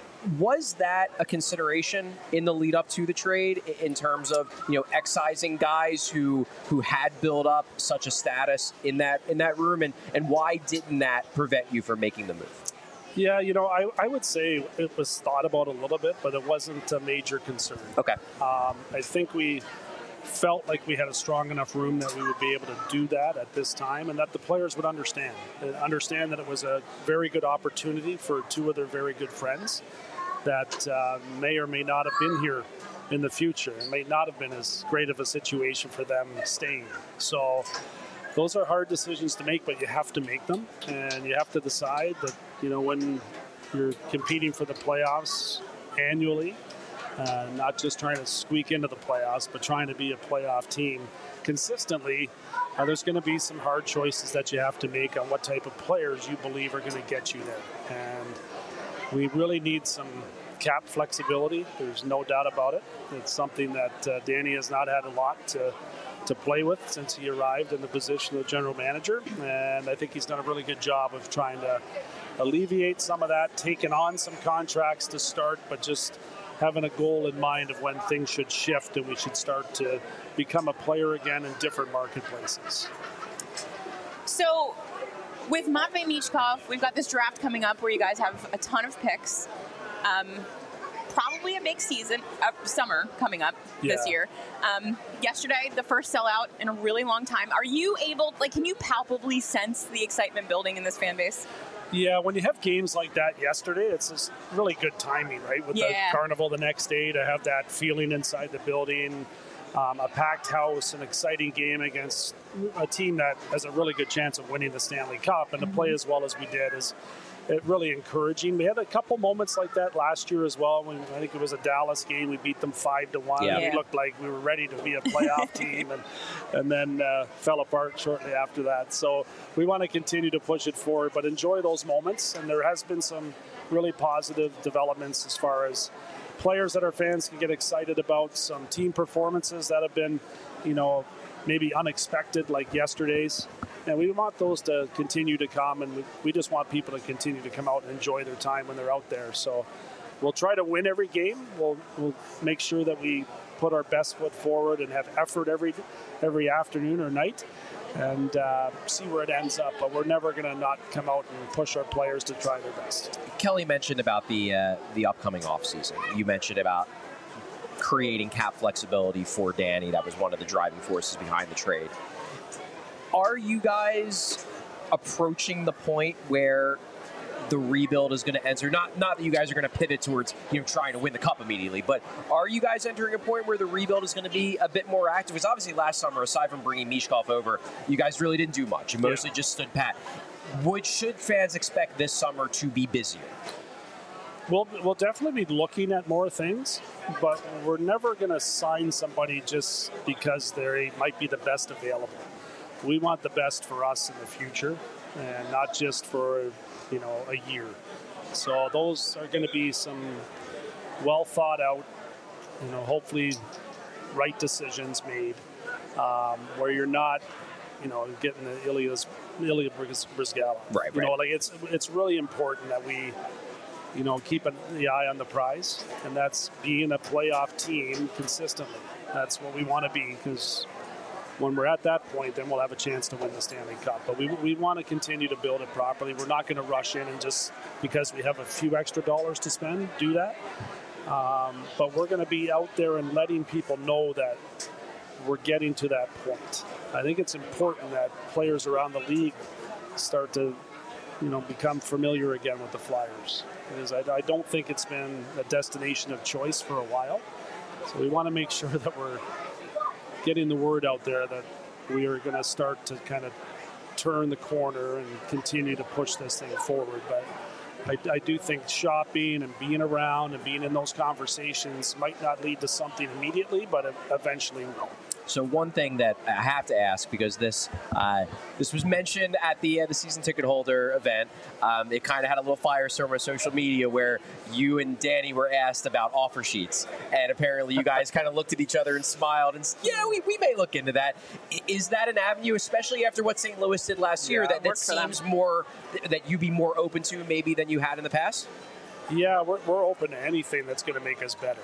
Was that a consideration in the lead up to the trade in terms of, you know, excising guys who who had built up such a status in that in that room, and, and why didn't that prevent you from making the move? Yeah, you know, I, I would say it was thought about a little bit, but it wasn't a major concern. Okay. Um, I think we felt like we had a strong enough room that we would be able to do that at this time, and that the players would understand. Uh, understand that it was a very good opportunity for two of their very good friends that uh, may or may not have been here in the future. It may not have been as great of a situation for them staying. So those are hard decisions to make, but you have to make them, and you have to decide that, you know, when you're competing for the playoffs annually, uh, not just trying to squeak into the playoffs, but trying to be a playoff team consistently, uh, there's going to be some hard choices that you have to make on what type of players you believe are going to get you there. And we really need some cap flexibility. There's no doubt about it. It's something that uh, Danny has not had a lot to to play with since he arrived in the position of general manager, and I think he's done a really good job of trying to alleviate some of that, taking on some contracts to start, but just having a goal in mind of when things should shift and we should start to become a player again in different marketplaces. So, with Matvei Michkov, we've got this draft coming up where you guys have a ton of picks. Um, probably a big season, uh, summer coming up this Yeah. year. Um, yesterday, the first sellout in a really long time. Are you able, like, can you palpably sense the excitement building in this fan base? Yeah, when you have games like that yesterday, it's just really good timing, right? With Yeah. the carnival the next day, to have that feeling inside the building, um, a packed house, an exciting game against a team that has a really good chance of winning the Stanley Cup, and to play as well as we did is it really encouraging. We had a couple moments like that last year as well. When I think it was a Dallas game, we beat them five to one. Yeah. We Yeah. looked like we were ready to be a playoff team, and and then uh, fell apart shortly after that. So we want to continue to push it forward, but enjoy those moments. And there has been some really positive developments as far as players that our fans can get excited about, some team performances that have been, you know, maybe unexpected, like yesterday's. And we want those to continue to come, and we, we just want people to continue to come out and enjoy their time when they're out there. So we'll try to win every game. We'll, we'll make sure that we put our best foot forward and have effort every every afternoon or night, and uh, see where it ends up. But we're never going to not come out and push our players to try their best. Kelly mentioned about the uh, the upcoming offseason. You mentioned about creating cap flexibility for Danny. That was one of the driving forces behind the trade. Are you guys approaching the point where the rebuild is going to enter? Not not that you guys are going to pivot towards, you know, trying to win the cup immediately, but are you guys entering a point where the rebuild is going to be a bit more active? Because obviously last summer, aside from bringing Michkov over, you guys really didn't do much. You mostly Yeah. just stood pat. Would should fans expect this summer to be busier? We'll, we'll definitely be looking at more things, but we're never going to sign somebody just because they might be the best available. We want the best for us in the future, and not just for, you know, a year. So those are going to be some well thought out, you know, hopefully right decisions made, um, where you're not, you know, getting the Ilya's, Ilya Brizgala. Right, You right. know, like it's it's really important that we, you know, keep an, the eye on the prize, and that's being a playoff team consistently. That's what we want to be, because when we're at that point, then we'll have a chance to win the Stanley Cup. But we, we want to continue to build it properly. We're not going to rush in and just because we have a few extra dollars to spend, do that. Um, but we're going to be out there and letting people know that we're getting to that point. I think it's important that players around the league start to, you know, become familiar again with the Flyers. Because I, I don't think it's been a destination of choice for a while. So we want to make sure that we're getting the word out there that we are going to start to kind of turn the corner and continue to push this thing forward. But I, I do think shopping and being around and being in those conversations might not lead to something immediately, but eventually will. So one thing that I have to ask, because this uh, this was mentioned at the uh, the season ticket holder event, um, it kind of had a little firestorm on social media where you and Danny were asked about offer sheets, and apparently you guys kind of looked at each other and smiled and said, yeah, we, we may look into that. I- Is that an avenue, especially after what Saint Louis did last year, Yeah, that, that worked for them. seems more, that you'd be more open to maybe than you had in the past? Yeah, we're, we're open to anything that's going to make us better.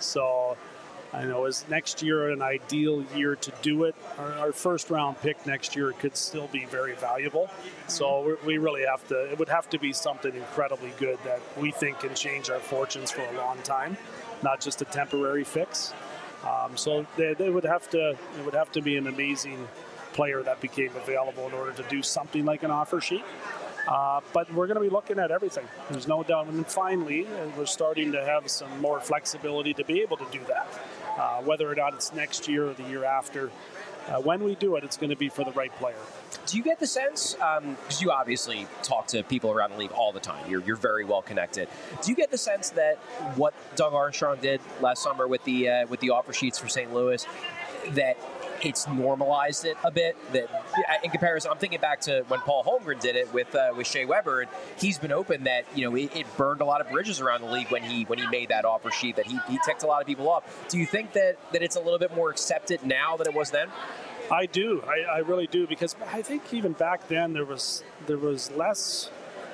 So I know, is next year an ideal year to do it? Our, our first round pick next year could still be very valuable. So we're, we really have to, it would have to be something incredibly good that we think can change our fortunes for a long time, not just a temporary fix. Um, so they, they would have to, it would have to be an amazing player that became available in order to do something like an offer sheet. Uh, but we're going to be looking at everything. There's no doubt. And then finally, uh, we're starting to have some more flexibility to be able to do that. Uh, whether or not it's next year or the year after, uh, when we do it, it's going to be for the right player. Do you get the sense, because you obviously talk to people around the league all the time, you're, you're very well connected. Do you get the sense that what Doug Armstrong did last summer with the uh, with the offer sheets for Saint Louis, that it's normalized it a bit? That in comparison, I'm thinking back to when Paul Holmgren did it with uh, with Shea Weber, and he's been open that, you know, it, it burned a lot of bridges around the league when he when he made that offer sheet, that he, he ticked a lot of people off. Do you think that, that it's a little bit more accepted now than it was then? I do. I, I really do, because I think even back then there was there was less,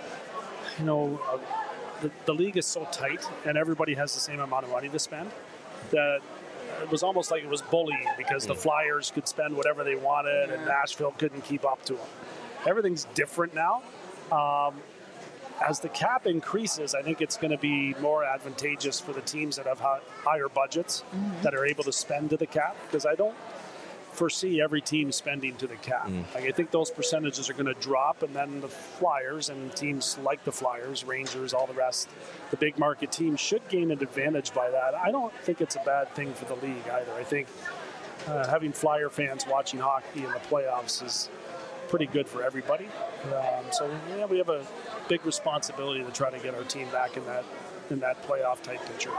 you know, uh, the, the league is so tight and everybody has the same amount of money to spend that it was almost like it was bullying, because the Flyers could spend whatever they wanted and Nashville couldn't keep up to them. Everything's different now. Um, as the cap increases, I think it's going to be more advantageous for the teams that have hi- higher budgets, that are able to spend to the cap, because I don't foresee every team spending to the cap. Mm. Like, I think those percentages are going to drop, and then the Flyers and teams like the Flyers, Rangers, all the rest, the big market teams should gain an advantage by that. I don't think it's a bad thing for the league either. I think uh, having Flyer fans watching hockey in the playoffs is pretty good for everybody. Um, so yeah, we have a big responsibility to try to get our team back in that in that playoff type picture.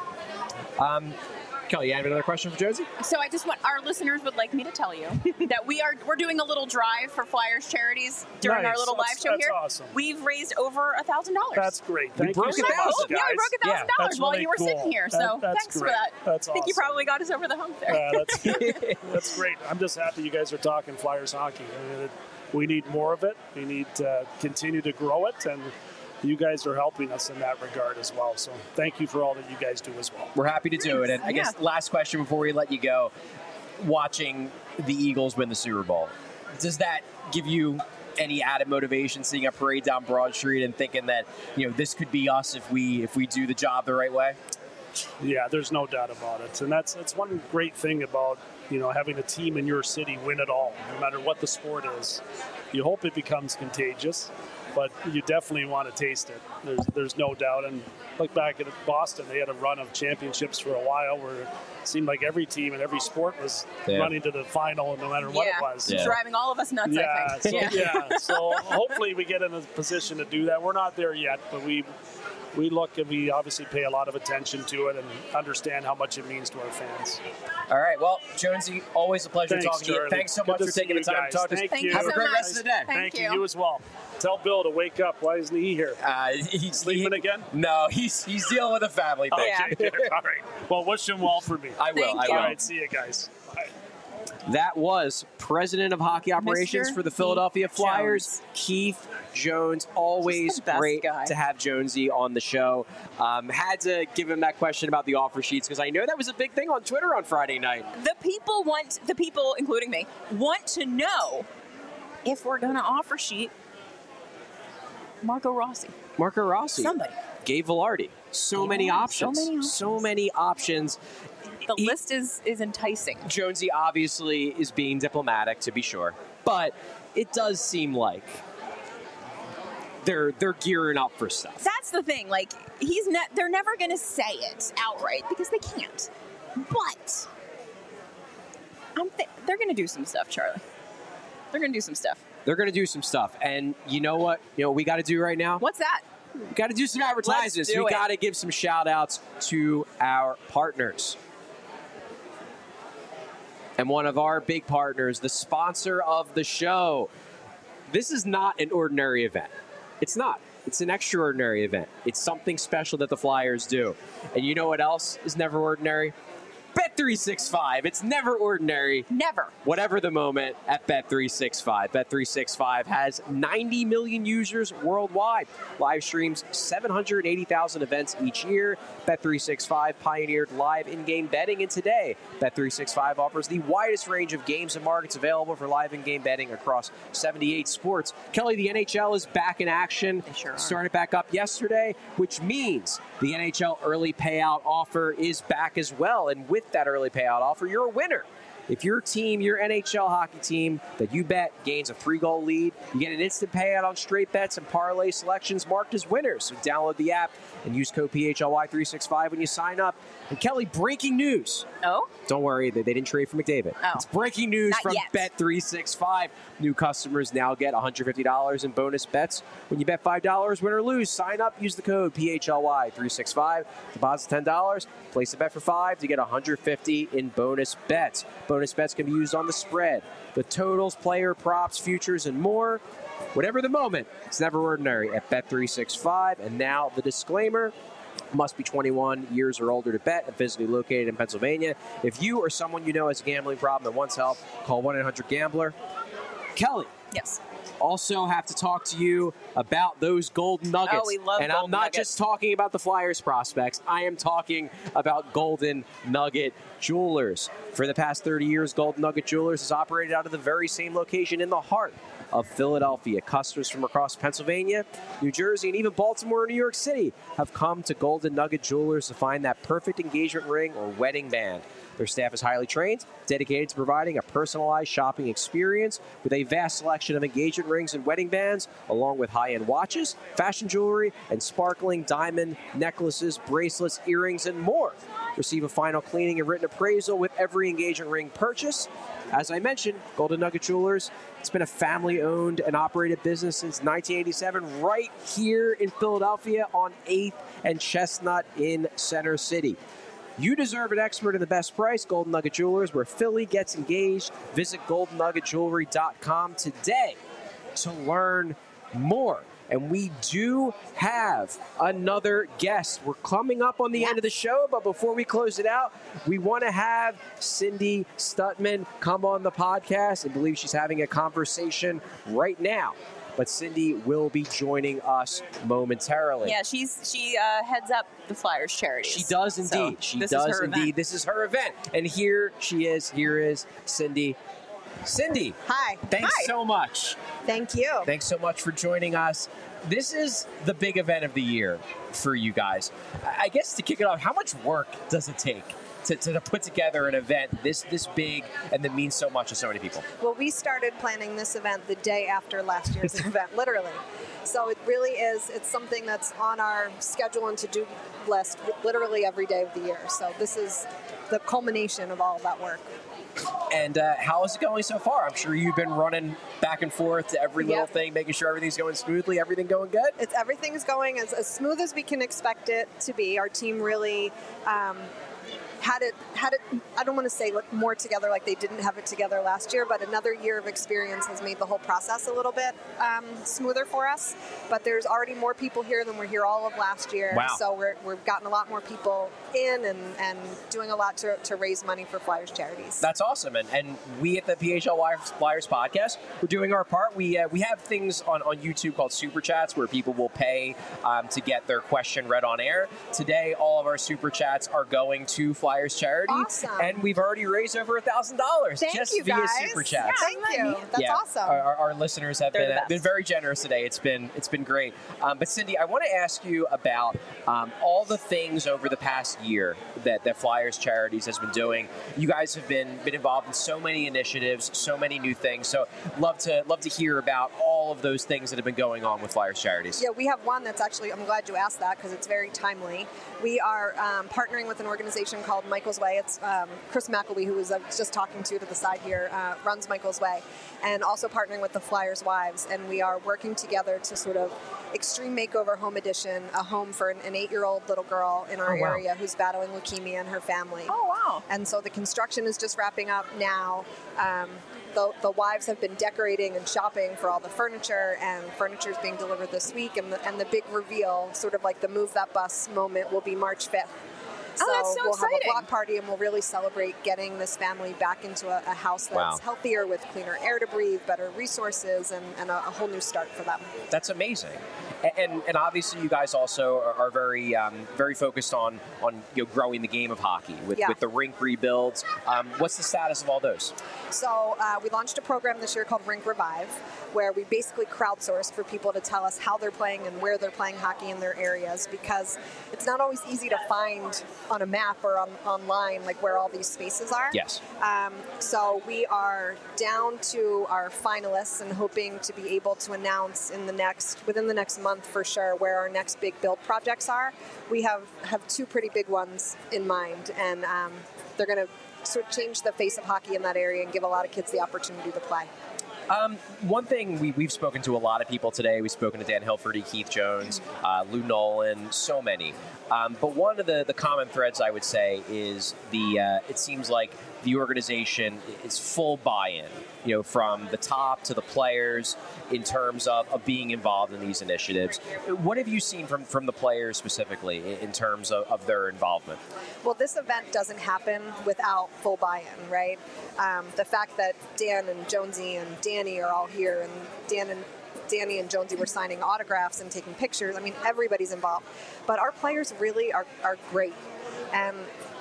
Um, Kelly, you have another question for Josie? So I just want our listeners would like me to tell you that we are we're doing a little drive for Flyers charities during Nice. our little That's- live show that's here. awesome. We've raised over a thousand dollars. That's great. Thank broke you a so thousand. much, Oh, guys. yeah, we broke a thousand That's dollars while really you were cool. sitting here. So That- that's thanks great. for that. That's I think you awesome. probably got us over the hump there. Uh, that's good. That's great. I'm just happy you guys are talking Flyers hockey. I mean, it, we need more of it. We need to continue to grow it, and you guys are helping us in that regard as well. So thank you for all that you guys do as well. We're happy to do it. And I Yeah. guess last question before we let you go. Watching the Eagles win the Super Bowl, does that give you any added motivation seeing a parade down Broad Street and thinking that, you know, this could be us if we if we do the job the right way? Yeah, there's no doubt about it. And that's that's one great thing about, you know, having a team in your city win it all, no matter what the sport is. You hope it becomes contagious, but you definitely want to taste it. There's there's no doubt. And look back at Boston, they had a run of championships for a while where it seemed like every team in every sport was Yeah. running to the final no matter what yeah, it was. Yeah. driving all of us nuts. Yeah, I so, think. yeah. So hopefully we get in a position to do that. We're not there yet, but we we look and we obviously pay a lot of attention to it and understand how much it means to our fans. All right. Well, Jonesy, always a pleasure Thanks, talking to you. Charlie. Thanks so Good much to for see taking the you time guys. to talk to us. Thank Thank you. you Have a so great much. rest of the day. Thank Thank you. you. You as well. Tell Bill to wake up. Why isn't he here? Uh, he's Sleeping he- again? No, he's he's dealing with a family thing. yeah. Okay. All right. Well, wish him well for me. I will. Thank I you. will. All right. See you guys. Bye. That was President of Hockey Operations Mister for the Philadelphia Keith Flyers, Jones. Keith Jones. Always Just the best great guy. to have Jonesy on the show. Um, had to give him that question about the offer sheets because I know that was a big thing on Twitter on Friday night. The people want, the people, including me, want to know if we're going to offer sheet Marco Rossi. Marco Rossi, Somebody. Gabe Velarde. So Gabe many Velarde, so options. many options. So many options. The He- list is, is enticing. Jonesy obviously is being diplomatic, to be sure, but it does seem like they're they're gearing up for stuff. That's the thing. Like, he's ne- they're never going to say it outright because they can't. But I'm th- they're going to do some stuff, Charlie. They're going to do some stuff. They're going to do some stuff, and you know what? You know what we got to do right now. What's that? We got to do some advertisements. Let's do we it. got to give some shout outs to our partners. And one of our big partners, the sponsor of the show. This is not an ordinary event. It's not. It's an extraordinary event. It's something special that the Flyers do. And you know what else is never ordinary? Bet three sixty-five. It's never ordinary. Never. Whatever the moment at Bet three sixty-five. Bet three sixty-five has ninety million users worldwide. Live streams seven hundred eighty thousand events each year. Bet three sixty-five pioneered live in-game betting, and today Bet three sixty-five offers the widest range of games and markets available for live in-game betting across seventy-eight sports. Kelly, the N H L is back in action. They sure are. Started back up yesterday, which means the N H L early payout offer is back as well. And with that early payout offer, you're a winner. If your team, your N H L hockey team that you bet gains a three-goal lead, you get an instant payout on straight bets and parlay selections marked as winners. So download the app and use code P H L Y three sixty-five when you sign up. And Kelly, breaking news. Oh? Don't worry, they they didn't trade for McDavid. Oh. It's breaking news Not from yet. Bet three sixty-five. New customers now get one hundred fifty dollars in bonus bets when you bet five dollars, win or lose. Sign up, use the code P H L Y three sixty-five. Deposit ten dollars, place a bet for five to get one hundred fifty dollars in bonus bets. Bonus bets can be used on the spread, the totals, player props, futures, and more. Whatever the moment, it's never ordinary at Bet three sixty-five. And now the disclaimer. Must be twenty-one years or older to bet and physically located in Pennsylvania. If you or someone you know has a gambling problem and wants help, call one eight hundred gambler. Kelly, Yes. also have to talk to you about those Golden Nuggets. Oh, we love And I'm Golden not Nuggets. just talking about the Flyers prospects. I am talking about Golden Nugget Jewelers. For the past thirty years, Golden Nugget Jewelers has operated out of the very same location in the heart of Philadelphia. Customers from across Pennsylvania, New Jersey, and even Baltimore and New York City have come to Golden Nugget Jewelers to find that perfect engagement ring or wedding band. Their staff is highly trained, dedicated to providing a personalized shopping experience with a vast selection of engagement rings and wedding bands, along with high-end watches, fashion jewelry, and sparkling diamond necklaces, bracelets, earrings, and more. Receive a final cleaning and written appraisal with every engagement ring purchase. As I mentioned, Golden Nugget Jewelers, it's been a family-owned and operated business since nineteen eighty-seven, right here in Philadelphia on eighth and Chestnut in Center City. You deserve an expert in the best price. Golden Nugget Jewelers, where Philly gets engaged. Visit golden nugget jewelry dot com today to learn more. And we do have another guest. We're coming up on the yes. end of the show, but before we close it out, we want to have Cindy Stutman come on the podcast. I believe she's having a conversation right now. But Cindy will be joining us momentarily. Yeah, she's she uh, heads up the Flyers charities. She does indeed. So she does indeed. Event. This is her event. And here she is. Here is Cindy. Cindy. Hi. Thanks Hi. so much. Thank you. Thanks so much for joining us. This is the big event of the year for you guys. I guess to kick it off, how much work does it take To, to put together an event this this big and that means so much to so many people? Well, we started planning this event the day after last year's event, literally. So it really is, it's something that's on our schedule and to-do list literally every day of the year. So this is the culmination of all of that work. And uh, how is it going so far? I'm sure you've been running back and forth to every little yep. thing, making sure everything's going smoothly. Everything going good? It's everything's going as, as smooth as we can expect it to be. Our team really um, had it, had it, I don't want to say like more together like they didn't have it together last year, but another year of experience has made the whole process a little bit um, smoother for us. But there's already more people here than were here all of last year. Wow. So we're, we've gotten a lot more people in and, and doing a lot to, to raise money for Flyers charities. That's awesome. And, and we at the P H L Y Flyers podcast, we're doing our part. We uh, we have things on, on YouTube called Super Chats where people will pay um, to get their question read on air. Today, all of our Super Chats are going to Flyers charity. Awesome. And we've already raised over one thousand dollars just you, via guys. Super Chats. Yeah, thank you. That's yeah, awesome. Our, our, our listeners have They're been, the uh, been very generous today. It's been it's been great. Um, but Cindy, I want to ask you about um, all the things over the past year that, that Flyers Charities has been doing. You guys have been been involved in so many initiatives, so many new things. So love to love to hear about all of those things that have been going on with Flyers Charities. Yeah, we have one that's actually, I'm glad you asked that because it's very timely. We are um, partnering with an organization called Michael's Way. It's um, Chris McElwee, who was uh, just talking to to the side here, uh, runs Michael's Way, and also partnering with the Flyers Wives. And we are working together to sort of Extreme Makeover Home Edition, a home for an, an eight-year-old little girl in our oh, wow. area who's battling leukemia and her family. Oh, wow. And so the construction is just wrapping up now. Um, the, the wives have been decorating and shopping for all the furniture, and furniture is being delivered this week. And the, and the big reveal, sort of like the Move That Bus moment, will be March fifth. So, oh, that's so we'll exciting. have a block party, and we'll really celebrate getting this family back into a, a house that's Wow. healthier, with cleaner air to breathe, better resources, and, and a, a whole new start for them. That's amazing. And, and obviously, you guys also are, are very um, very focused on on you know, growing the game of hockey with, Yeah. with the rink rebuilds. Um, what's the status of all those? So uh, we launched a program this year called Rink Revive, where we basically crowdsourced for people to tell us how they're playing and where they're playing hockey in their areas, because it's not always easy to find on a map or on, online like where all these spaces are. Yes. Um, so we are down to our finalists and hoping to be able to announce in the next within the next month for sure where our next big build projects are. We have, have two pretty big ones in mind, and um, they're going to sort of change the face of hockey in that area and give a lot of kids the opportunity to play. Um, one thing we, we've spoken to a lot of people today. We've spoken to Dan Hilferty, Keith Jones, uh, Lou Nolan, so many. Um, but one of the, the common threads, I would say, is the. Uh, it seems like the organization is full buy-in, you know, from the top to the players in terms of, of being involved in these initiatives. What have you seen from, from the players specifically in terms of, of their involvement? Well, this event doesn't happen without full buy-in, right? Um, the fact that Dan and Jonesy and Danny are all here, and Dan and Danny and Jonesy were signing autographs and taking pictures. I mean, everybody's involved. But our players really are, are great. And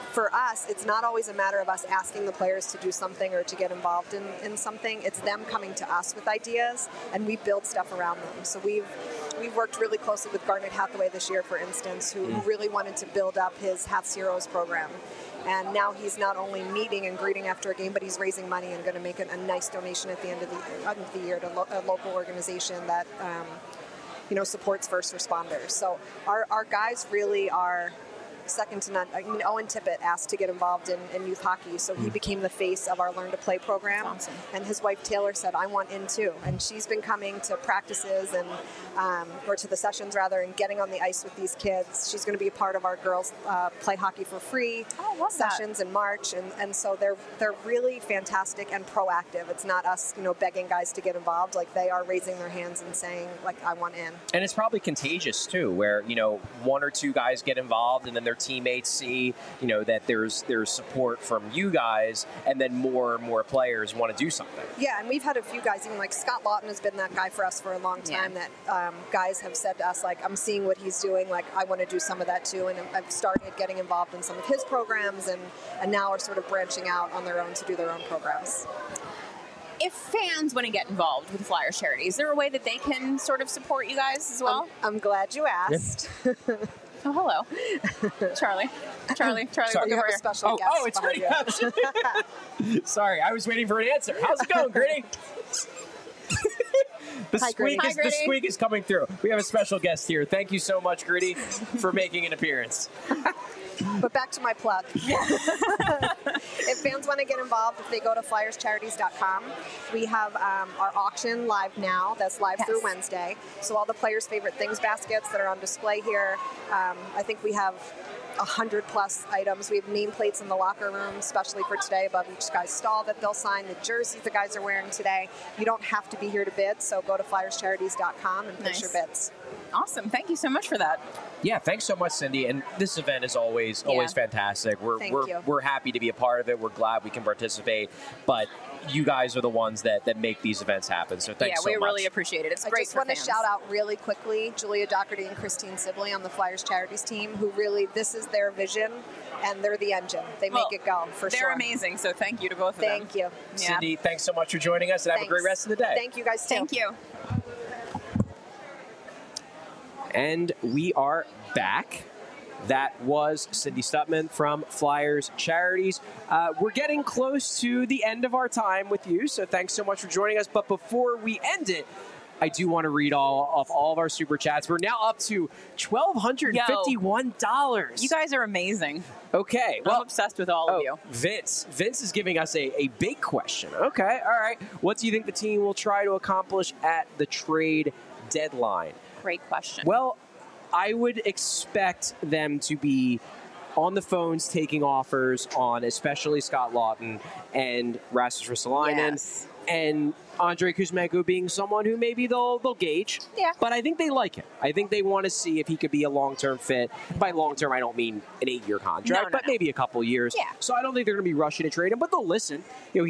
for us, it's not always a matter of us asking the players to do something or to get involved in, in something. It's them coming to us with ideas, and we build stuff around them. So we've we've worked really closely with Garnet Hathaway this year, for instance, who, who really wanted to build up his Hath's Heroes program. And now he's not only meeting and greeting after a game, but he's raising money and going to make a, a nice donation at the end of the, end of the year to lo- a local organization that um, you know, supports first responders. So our, our guys really are second to none. I mean, Owen Tippett asked to get involved in, in youth hockey, so he became the face of our Learn to Play program. Awesome. And his wife Taylor said, I want in too. And she's been coming to practices and um, or to the sessions rather, and getting on the ice with these kids. She's going to be a part of our girls uh, play hockey for free oh, I love sessions that. in March, and, and so they're they're really fantastic and proactive. It's not us, you know, begging guys to get involved. Like, they are raising their hands and saying, like, I want in. And it's probably contagious too, where, you know, one or two guys get involved and then their teammates see, you know, that there's there's support from you guys, and then more and more players want to do something. Yeah, and we've had a few guys, even like Scott Lawton has been that guy for us for a long time, Yeah. that um, guys have said to us, like, I'm seeing what he's doing, like, I want to do some of that too, and I've started getting involved in some of his programs, and, and now are sort of branching out on their own to do their own programs. If fans want to get involved with Flyers charity, is there a way that they can sort of support you guys as well? I'm, I'm glad you asked. Oh, hello. Charlie. Charlie. Charlie, Sorry, look You have over a here. special Oh, guest oh, it's behind Gritty. you. Sorry, I was waiting for an answer. How's it going, Gritty? The Hi, squeak, Gritty. is, Hi, the Gritty. squeak is coming through. We have a special guest here. Thank you so much, Gritty, for making an appearance. But back to my plug. If fans want to get involved, if they go to flyers charities dot com, we have um, our auction live now. That's live Yes. through Wednesday. So all the players' favorite things baskets that are on display here. Um, I think we have one hundred plus items. We have nameplates in the locker room, especially for today, above each guy's stall that they'll sign. The jerseys the guys are wearing today. You don't have to be here to bid, so go to flyers charities dot com and place Nice. your bids. Awesome. Thank you so much for that. Yeah, thanks so much, Cindy. And this event is always Yeah. always fantastic. We're Thank we're you. we're happy to be a part of it. We're glad we can participate. But you guys are the ones that, that make these events happen. So thanks yeah, so we much. really appreciate it. It's I great just for want to fans. shout out really quickly Julia Doherty and Christine Sibley on the Flyers Charities team, who really, this is their vision, and they're the engine. They Well, make it go, for They're sure. amazing, so thank you to both of Thank them. you. Yeah. Cindy, thanks so much for joining us, and have a great Thanks. rest of the day. Thank you guys, too. Thank you. And we are back. That was Cindy Stutman from Flyers Charities. Uh, we're getting close to the end of our time with you, so thanks so much for joining us. But before we end it, I do want to read all of all of our super chats. We're now up to one thousand two hundred fifty-one dollars. You guys are amazing. Okay, I'm well, obsessed with all oh, of you. Vince. Vince is giving us a, a big question. Okay, all right. What do you think the team will try to accomplish at the trade deadline? Great question. Well, I would expect them to be on the phones taking offers on especially Scott Lawton and Rasmus Ristolainen Yes. and Andre Kuzmenko being someone who maybe they'll they'll gauge. Yeah. But I think they like him. I think they want to see if he could be a long-term fit. By long-term, I don't mean an eight-year contract, No, no, but no. maybe a couple years. Yeah. So I don't think they're going to be rushing to trade him, but they'll listen. You know,